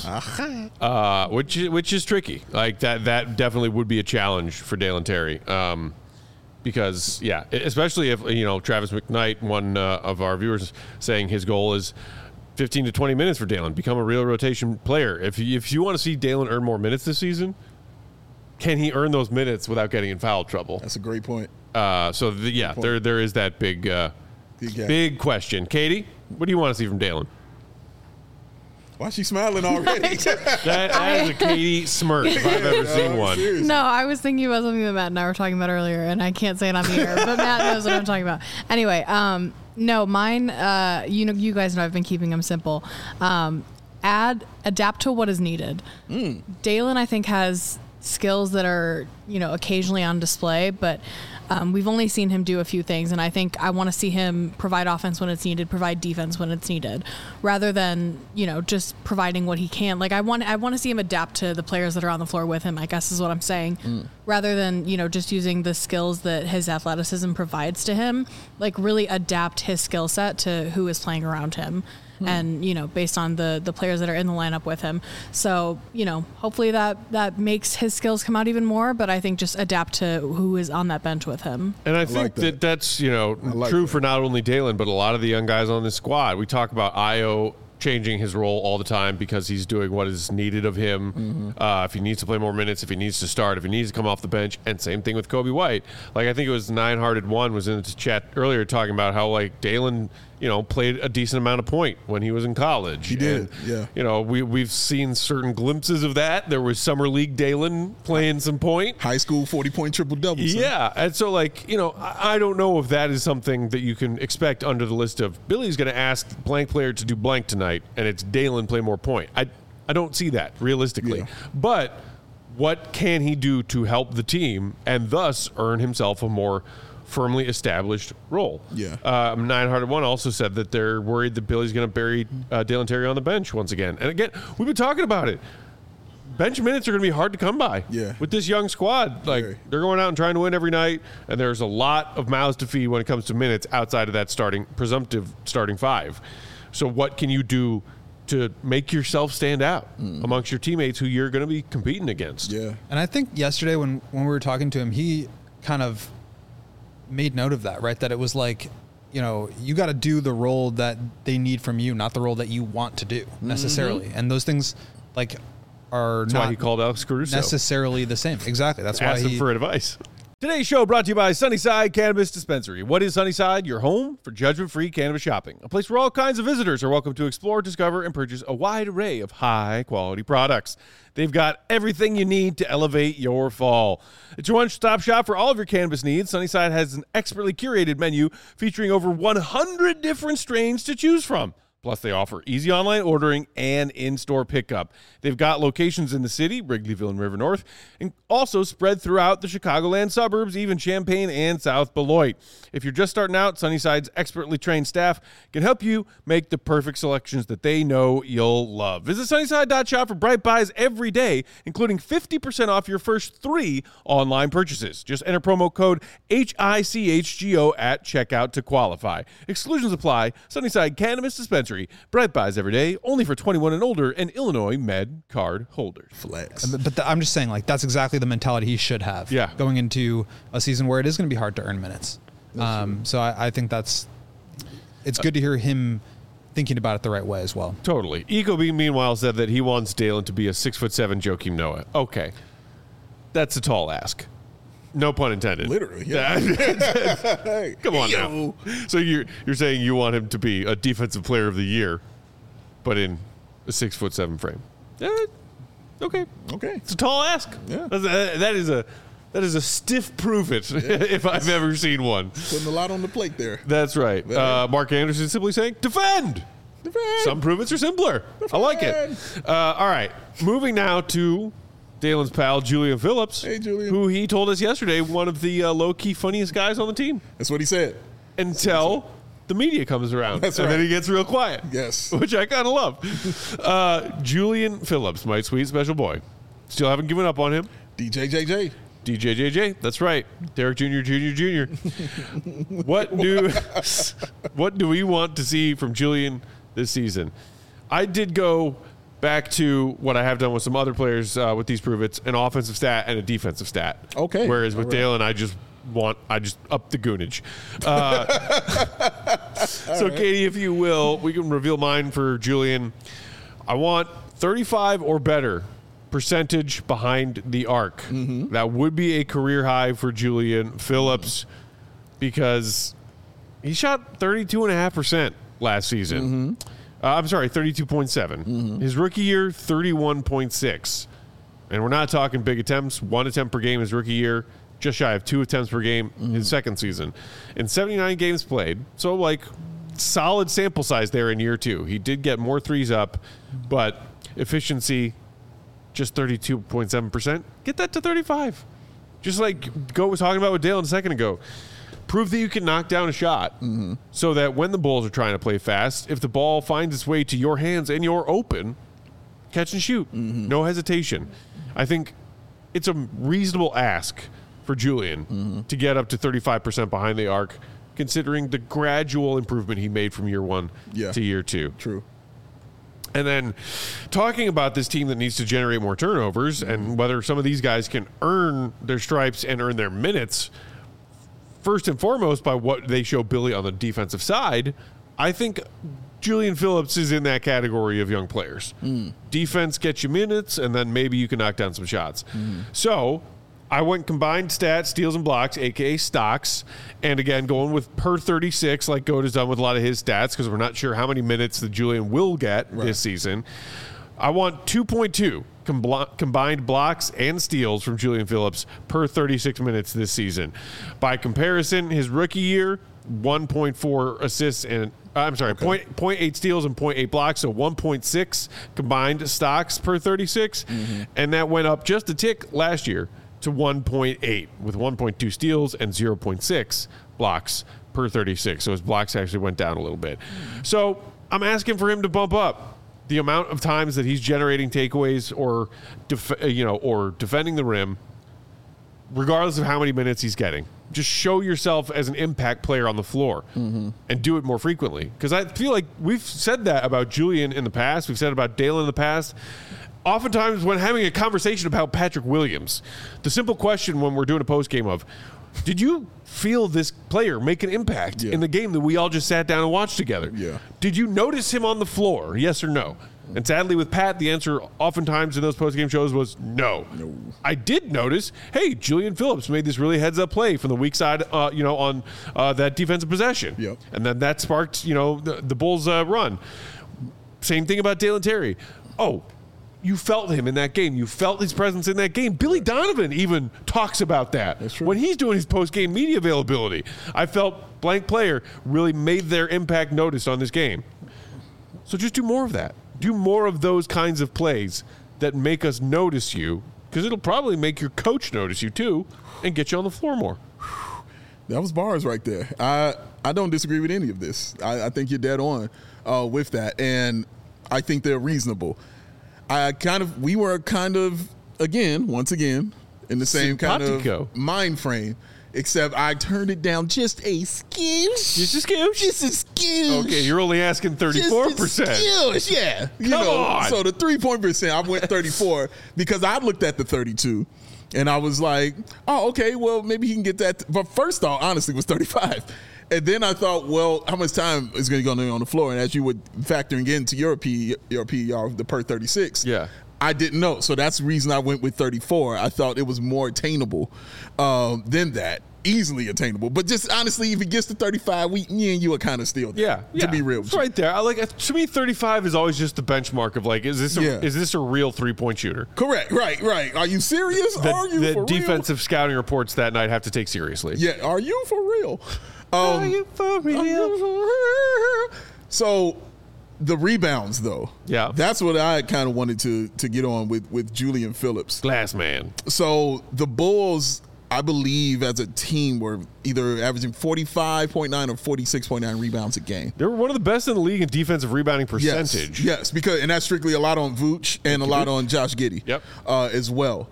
uh, which which is tricky. Like that that definitely would be a challenge for Dalen Terry. Um, because yeah, especially if you know Travis McKnight, one uh, of our viewers, saying his goal is fifteen to twenty minutes for Dalen, become a real rotation player. If you, if you want to see Dalen earn more minutes this season, can he earn those minutes without getting in foul trouble? That's a great point. Uh, so the, yeah, point. there there is that big uh, Big gap. big question. Katie, what do you want to see from Dalen? Why is she smiling already? That, that is a Katie smirk if I've ever seen one. Seriously. No, I was thinking about something that Matt and I were talking about earlier, and I can't say it on the air, but Matt knows what I'm talking about. Anyway, um, no, mine. Uh, you know, you guys know I've been keeping them simple. Um, add, adapt to what is needed. Mm. Dalen, I think, has skills that are you know occasionally on display, but um, we've only seen him do a few things, and I think I want to see him provide offense when it's needed, provide defense when it's needed, rather than you know just providing what he can. Like I want, I want to see him adapt to the players that are on the floor with him, I guess is what I'm saying, Mm. rather than you know just using the skills that his athleticism provides to him. Like really adapt his skill set to who is playing around him. And you know, based on the the players that are in the lineup with him, so you know, hopefully that that makes his skills come out even more. But I think just adapt to who is on that bench with him. And I, I think like that. that. that's you know like true that. for not only Dalen but a lot of the young guys on this squad. We talk about Io changing his role all the time because he's doing what is needed of him. Mm-hmm. Uh, if he needs to play more minutes, if he needs to start, if he needs to come off the bench, and same thing with Kobe White. Like I think it was Nine Hearted One was in the chat earlier talking about how like Dalen you know, played a decent amount of point when he was in college. He did, and, yeah. You know, we, we've seen certain glimpses of that. There was Summer League Dalen playing some point. High school forty-point triple-double. Yeah, and so, like, you know, I, I don't know if that is something that you can expect under the list of Billy's going to ask blank player to do blank tonight, and it's Dalen play more point. I, I don't see that, realistically. Yeah. But what can he do to help the team and thus earn himself a more firmly established role? Yeah. Uh, nine hundred one also said that they're worried that Billy's going to bury uh, Dalen Terry on the bench once again. And again, we've been talking about it. Bench minutes are going to be hard to come by. Yeah. With this young squad, like Very. they're going out and trying to win every night, and there's a lot of mouths to feed when it comes to minutes outside of that starting presumptive starting five. So what can you do to make yourself stand out mm. amongst your teammates who you're going to be competing against? Yeah. And I think yesterday when when we were talking to him, he kind of made note of that, right? That it was like, you know, you got to do the role that they need from you, not the role that you want to do necessarily. Mm-hmm. And those things, like, are That's not why he called Alex Caruso. necessarily the same. Exactly. That's why Asked he him for advice. Today's show brought to you by Sunnyside Cannabis Dispensary. What is Sunnyside? Your home for judgment-free cannabis shopping. A place where all kinds of visitors are welcome to explore, discover, and purchase a wide array of high-quality products. They've got everything you need to elevate your fall. It's your one-stop shop for all of your cannabis needs. Sunnyside has an expertly curated menu featuring over one hundred different strains to choose from. Plus, they offer easy online ordering and in-store pickup. They've got locations in the city, Wrigleyville and River North, and also spread throughout the Chicagoland suburbs, even Champaign and South Beloit. If you're just starting out, Sunnyside's expertly trained staff can help you make the perfect selections that they know you'll love. Visit Sunnyside dot shop for bright buys every day, including fifty percent off your first three online purchases. Just enter promo code H I C H G O at checkout to qualify. Exclusions apply. Sunnyside Cannabis Dispensary. Bright buys every day, only for twenty-one and older and Illinois Med card holders. Flex. But, but the, I'm just saying, like, that's exactly the mentality he should have. Yeah. Going into a season where it is going to be hard to earn minutes. Um, so I, I think that's it's good to hear him thinking about it the right way as well. Totally. Ecobee, meanwhile, said that he wants Dalen to be a six foot seven Joakim Noah. Okay, that's a tall ask. No pun intended. Literally, yeah. Hey, come on now. So you're you're saying you want him to be a defensive player of the year, but in a six foot seven frame? Eh, okay, Okay. it's a tall ask. Yeah. That's a- that is a that is a stiff prove it if I've ever seen one. Putting a lot on the plate there. That's right. Uh, Mark Anderson simply saying defend. Defend. Some prove-its are simpler. I like it. Uh, all right. Moving now to Dalen's pal, Julian Phillips. Hey, Julian. Who he told us yesterday, one of the uh, low-key funniest guys on the team. That's what he said. Until the media comes around. That's and right. then he gets real quiet. Yes. Which I kind of love. uh, Julian Phillips, my sweet special boy. Still haven't given up on him. D J J J. D J J J, that's right. Derek Junior, Junior, Junior. What do what do we want to see from Julian this season? I did go back to what I have done with some other players uh, with these prove-its, an offensive stat and a defensive stat. Okay. Whereas with All right. Dalen, I just want, I just up the goonage. Uh, so, right. Katie, if you will, we can reveal mine for Julian. I want thirty-five or better percentage behind the arc. Mm-hmm. That would be a career high for Julian Phillips because he shot thirty-two point five percent last season. Mm-hmm. Uh, I'm sorry, thirty-two point seven. Mm-hmm. His rookie year, thirty-one point six. And we're not talking big attempts. One attempt per game his rookie year, just shy of two attempts per game Mm-hmm. his second season. In seventy-nine games played, so like solid sample size there in year two. He did get more threes up, but efficiency just thirty-two point seven percent. Get that to thirty-five. Just like Go was talking about with Dalen a second ago. Prove that you can knock down a shot Mm-hmm. so that when the Bulls are trying to play fast, if the ball finds its way to your hands and you're open, catch and shoot. Mm-hmm. No hesitation. I think it's a reasonable ask for Julian Mm-hmm. to get up to thirty-five percent behind the arc, considering the gradual improvement he made from year one Yeah. to year two. True. And then talking about this team that needs to generate more turnovers and whether some of these guys can earn their stripes and earn their minutes, first and foremost by what they show Billy on the defensive side, I think Julian Phillips is in that category of young players. Mm. Defense gets you minutes, and then maybe you can knock down some shots. Mm. So I went combined stats, steals, and blocks, a k a stocks. And again, going with per thirty-six, like Goat has done with a lot of his stats, because we're not sure how many minutes that Julian will get right. this season. I want two point two com- combined blocks and steals from Julian Phillips per thirty-six minutes this season. By comparison, his rookie year, one point four assists and uh, I'm sorry, okay. point, zero point eight steals and zero point eight blocks, so one point six combined stocks per thirty-six. Mm-hmm. And that went up just a tick last year to one point eight with one point two steals and zero point six blocks per thirty-six. So his blocks actually went down a little bit. So I'm asking for him to bump up the amount of times that he's generating takeaways or def- you know or defending the rim, regardless of how many minutes he's getting. Just show yourself as an impact player on the floor mm-hmm. and do it more frequently. Because I feel like we've said that about Julian in the past. We've said it about Dalen in the past. Oftentimes when having a conversation about Patrick Williams, the simple question when we're doing a post game of, did you feel this player make an impact yeah. in the game that we all just sat down and watched together? Yeah. Did you notice him on the floor? Yes or no? And sadly, with Pat, the answer oftentimes in those post-game shows was no. no. I did notice, hey, Julian Phillips made this really heads-up play from the weak side, uh, you know, on uh, that defensive possession. Yep. And then that sparked, you know, the, the Bulls' uh, run. Same thing about Dalen Terry. Oh, you felt him in that game. You felt his presence in that game. Billy Donovan even talks about that. That's true. When he's doing his post-game media availability. I felt blank player really made their impact noticed on this game. So just do more of that. Do more of those kinds of plays that make us notice you, because it'll probably make your coach notice you too and get you on the floor more. That was bars right there. I, I don't disagree with any of this. I, I think you're dead on uh, with that, and I think they're reasonable. I kind of, we were kind of, again, once again, in the same Simpatico. kind of mind frame, except I turned it down just a skills. Just a skills? Just a skills. Okay, you're only asking thirty-four percent. Just a skills, yeah. You Come know, on. So the three-point percent, I went thirty-four because I looked at the thirty-two, and I was like, oh, okay, well, maybe he can get that. But first thought, honestly, was thirty-five. And then I thought, well, how much time is going to go on the floor? And as you were factoring into your P, your P R, the per thirty-six, yeah. I didn't know. So that's the reason I went with thirty-four. I thought it was more attainable um, than that. Easily attainable. But just honestly, if it gets to thirty-five, we, me and you are kind of still there. Yeah. To yeah. be real. It's right there. I like, to me, thirty-five is always just the benchmark of like, is this a, Yeah. is this a real three-point shooter? Correct. Right, right. Are you serious? That, are you that for defensive scouting reports that night have to take seriously. real? Yeah. Are you for real? Um, are you for real? Are you for real? So the rebounds, though. Yeah. That's what I kind of wanted to to get on with, with Julian Phillips. Glass man. So the Bulls, I believe, as a team, were either averaging forty-five point nine or forty-six point nine rebounds a game. They were one of the best in the league in defensive rebounding percentage. Yes, yes, because and that's strictly a lot on Vooch and a lot on Josh Giddey. Yep. Uh, as well.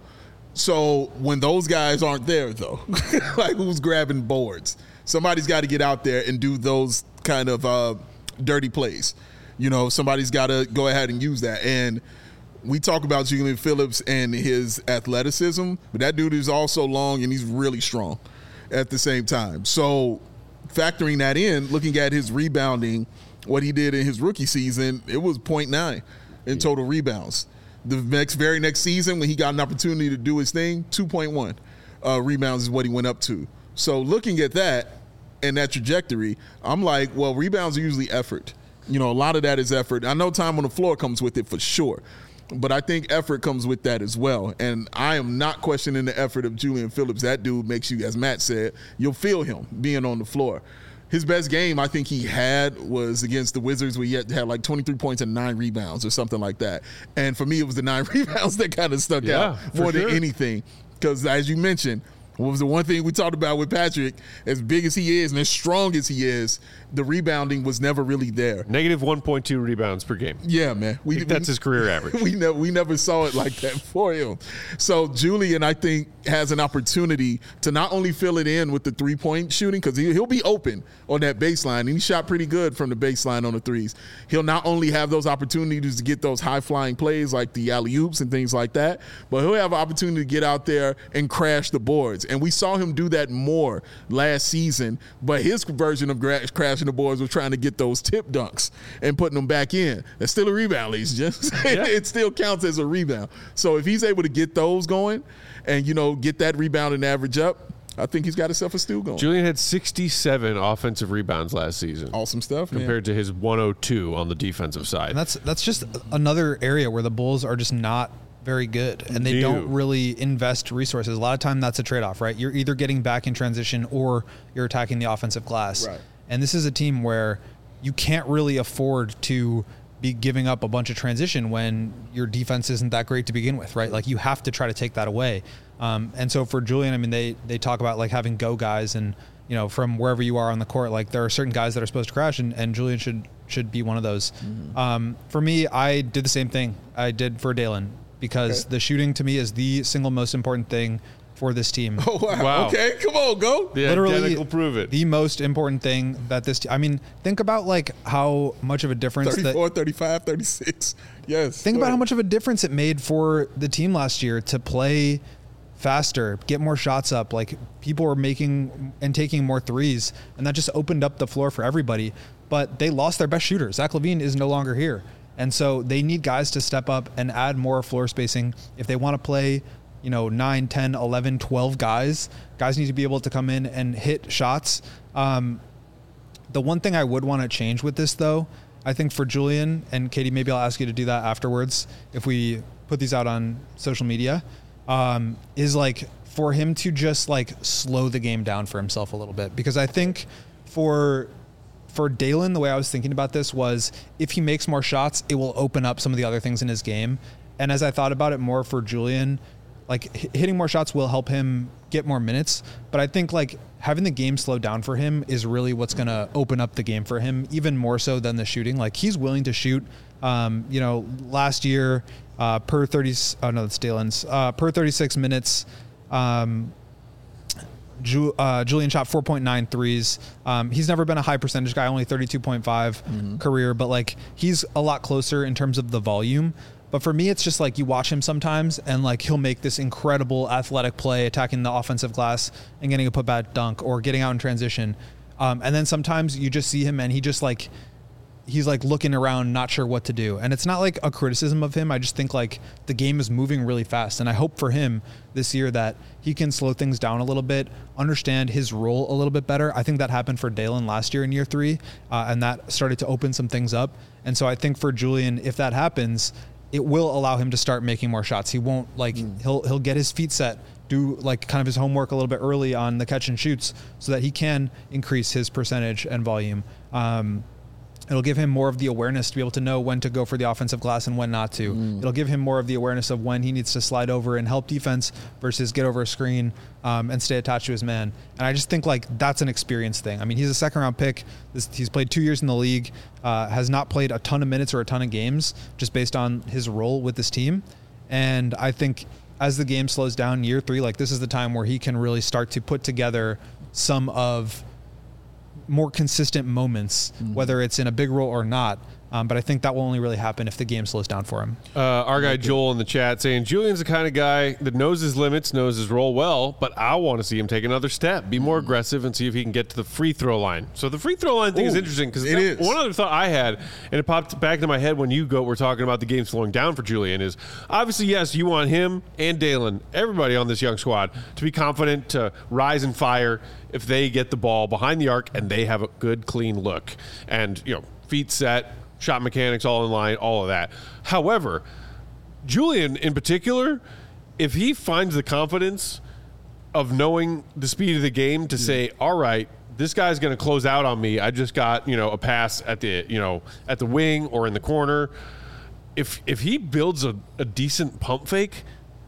So when those guys aren't there, though, like who's grabbing boards? Somebody's got to get out there and do those kind of uh, dirty plays. You know, somebody's got to go ahead and use that. And we talk about Julian Phillips and his athleticism, but that dude is also long and he's really strong at the same time. So factoring that in, looking at his rebounding, what he did in his rookie season, it was point nine in total rebounds. The next, very next season, when he got an opportunity to do his thing, two point one uh, rebounds is what he went up to. So looking at that and that trajectory, I'm like, well, rebounds are usually effort. You know, a lot of that is effort. I know time on the floor comes with it for sure, but I think effort comes with that as well. And I am not questioning the effort of Julian Phillips. That dude makes you, as Matt said, you'll feel him being on the floor. His best game I think he had was against the Wizards, where he had, had like twenty-three points and nine rebounds or something like that. And for me, it was the nine rebounds that kind of stuck Yeah, out more for than sure. anything. Because as you mentioned, what was the one thing we talked about with Patrick? As big as he is and as strong as he is, the rebounding was never really there. Negative one point two rebounds per game. Yeah, man. We, I think that's we, his career average. We never, we never saw it like that for him. So Julian, I think, has an opportunity to not only fill it in with the three-point shooting, because he, he'll be open on that baseline, and he shot pretty good from the baseline on the threes. He'll not only have those opportunities to get those high-flying plays like the alley-oops and things like that, but he'll have an opportunity to get out there and crash the boards. boards. And we saw him do that more last season, but his version of gra- crashing the boards was trying to get those tip dunks and putting them back in. That's still a rebound, ladies and gentlemen. Yeah. It still counts as a rebound. So if he's able to get those going and, you know, get that rebound and average up, I think he's got himself a steal going. Julian had sixty-seven offensive rebounds last season. Awesome stuff, compared man. to his one oh two on the defensive side. And that's that's just another area where the Bulls are just not very good, and they Ew. don't really invest resources. A lot of time that's a trade-off, right? You're either getting back in transition or you're attacking the offensive glass. Right. And this is a team where you can't really afford to be giving up a bunch of transition when your defense isn't that great to begin with, right? Like, you have to try to take that away. Um, and so for Julian, I mean, they they talk about like having go guys, and you know, from wherever you are on the court, like there are certain guys that are supposed to crash, and, and Julian should should be one of those. Mm-hmm. Um, for me, I did the same thing I did for Dalen, because okay. the shooting to me is the single most important thing for this team. Oh, wow. wow. Okay, come on, go. The Literally, prove it. The most important thing that this team, I mean, think about like how much of a difference thirty-four, that, thirty-five, thirty-six. Yes. Think about how much of a difference it made for the team last year to play faster, get more shots up. Like, people were making and taking more threes, and that just opened up the floor for everybody. But they lost their best shooter. Zach LaVine is no longer here. And so they need guys to step up and add more floor spacing. If they want to play, you know, nine, ten, eleven, twelve guys, guys need to be able to come in and hit shots. Um, the one thing I would want to change with this, though, I think for Julian, and Katie, maybe I'll ask you to do that afterwards if we put these out on social media, um, is like for him to just like slow the game down for himself a little bit. Because I think for for Dalen, the way I was thinking about this was if he makes more shots, it will open up some of the other things in his game. And as I thought about it more for Julian, like hitting more shots will help him get more minutes. But I think like having the game slow down for him is really what's going to open up the game for him, even more so than the shooting. Like, he's willing to shoot. Um, you know, last year, uh, per thirty, oh no, that's Dalen's, uh, per thirty-six minutes, um, Ju, uh, Julian shot four point nine threes. Um, he's never been a high percentage guy, only thirty-two point five mm-hmm. career, but like he's a lot closer in terms of the volume. But for me, it's just like you watch him sometimes and like he'll make this incredible athletic play attacking the offensive glass and getting a putback dunk or getting out in transition. Um, and then sometimes you just see him and he just like, he's like looking around, not sure what to do. And it's not like a criticism of him. I just think like the game is moving really fast. And I hope for him this year that he can slow things down a little bit, understand his role a little bit better. I think that happened for Dalen last year in year three. Uh, and that started to open some things up. And so I think for Julian, if that happens, it will allow him to start making more shots. He won't like, mm. he'll, he'll get his feet set, do like kind of his homework a little bit early on the catch and shoots so that he can increase his percentage and volume. Um, It'll give him more of the awareness to be able to know when to go for the offensive glass and when not to. Mm. It'll give him more of the awareness of when he needs to slide over and help defense versus get over a screen um, and stay attached to his man. And I just think like that's an experience thing. I mean, he's a second round pick. This, he's played two years in the league, uh, has not played a ton of minutes or a ton of games just based on his role with this team. And I think as the game slows down year three, like this is the time where he can really start to put together some of more consistent moments, mm-hmm. whether it's in a big role or not. Um, but I think that will only really happen if the game slows down for him. Uh, our guy Joel in the chat saying, Julian's the kind of guy that knows his limits, knows his role well, but I want to see him take another step, be more aggressive, and see if he can get to the free throw line. So the free throw line thing Ooh, is interesting because one other thought I had, and it popped back into my head when you go, were talking about the game slowing down for Julian, is obviously, yes, you want him and Dalen, everybody on this young squad, to be confident, to rise and fire if they get the ball behind the arc and they have a good, clean look. And, you know, feet set, shot mechanics all in line, all of that. However, Julian in particular, if he finds the confidence of knowing the speed of the game to say, all right, this guy's going to close out on me. I just got, you know, a pass at the, you know, at the wing or in the corner. If if he builds a, a decent pump fake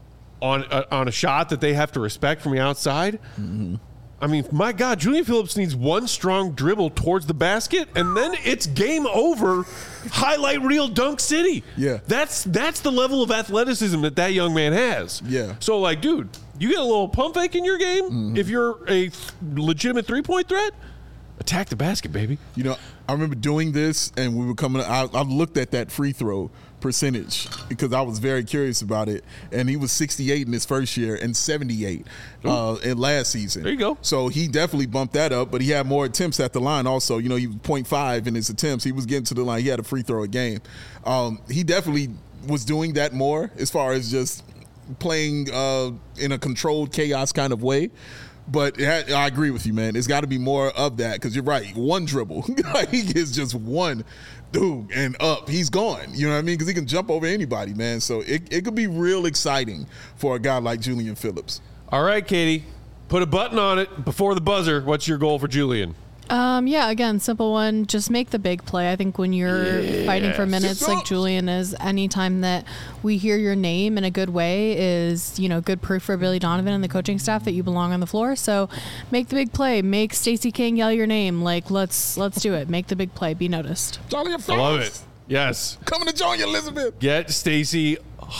on a, on a shot that they have to respect from the outside, mm-hmm. I mean, my God, Julian Phillips needs one strong dribble towards the basket, and then it's game over. Highlight reel dunk city. Yeah, that's that's the level of athleticism that that young man has. Yeah. So, like, dude, you get a little pump fake in your game. Mm-hmm. If you're a th- legitimate three point threat, attack the basket, baby. You know, I remember doing this, and we were coming. I, I looked at that free throw percentage because I was very curious about it. And he was sixty-eight in his first year and seventy-eight uh, in last season. There you go. So he definitely bumped that up, but he had more attempts at the line also. You know, he was point five in his attempts. He was getting to the line. He had a free throw a game. Um, he definitely was doing that more as far as just playing uh, in a controlled chaos kind of way. But it had, I agree with you, man. It's got to be more of that because you're right. One dribble. He gets just one. Dude, and up, he's gone. You know what I mean? Because he can jump over anybody, man. So it, it could be real exciting for a guy like Julian Phillips. All right, Katie, put a button on it before the buzzer. What's your goal for Julian? Um, yeah, again, simple one. Just make the big play. I think when you're Yes. fighting for minutes like Julian is, anytime that we hear your name in a good way is, you know, good proof for Billy Donovan and the coaching staff that you belong on the floor. So make the big play. Make Stacey King yell your name. Like, let's let's do it. Make the big play. Be noticed. Charlie, I love it. Yes. Coming to join you, Elizabeth. Get Stacey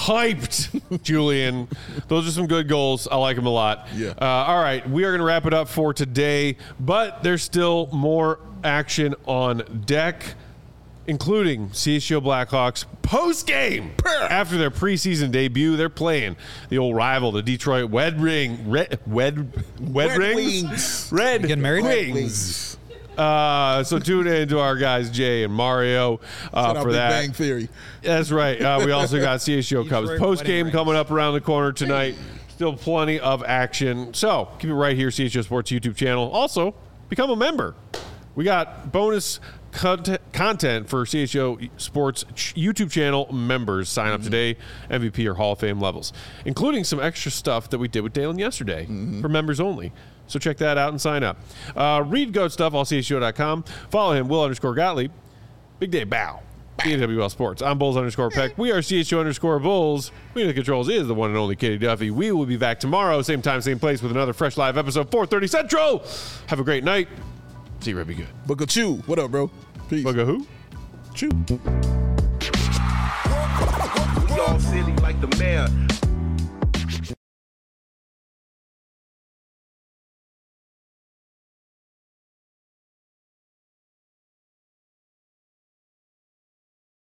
hyped, Julian. Those are some good goals. I like them a lot. Yeah. Uh, all right. We are going to wrap it up for today, but there's still more action on deck, including C S U Blackhawks post-game. After their preseason debut, they're playing the old rival, the Detroit Red Ring. Red, Wed, Wed Red Rings? Wings. Red Getting married? Wings. Uh, so tune in to our guys, Jay and Mario, uh, Shout out for Big that. Bang Theory. That's right. Uh, we also got C S U Cubs Detroit post game wedding coming up around the corner tonight. Still plenty of action. So keep it right here, C S U Sports YouTube channel. Also, become a member. We got bonus content, content for C S U Sports YouTube channel members. Sign up today, M V P or Hall of Fame levels, including some extra stuff that we did with Dalen yesterday for members only. So check that out and sign up. Uh, read Goat Stuff, all C S U dot com. Follow him, Will underscore Gottlieb. Big Day Bow. B W L Sports. I'm Bulls underscore Peck. We are C S U underscore Bulls. We the Controls is the one and only Katie Duffy. We will be back tomorrow, same time, same place, with another fresh live episode, four thirty Central. Have a great night. See you, Red. Be good. Booker Chew. What up, bro? Peace. Bugga who? Chew. We all silly like the mayor.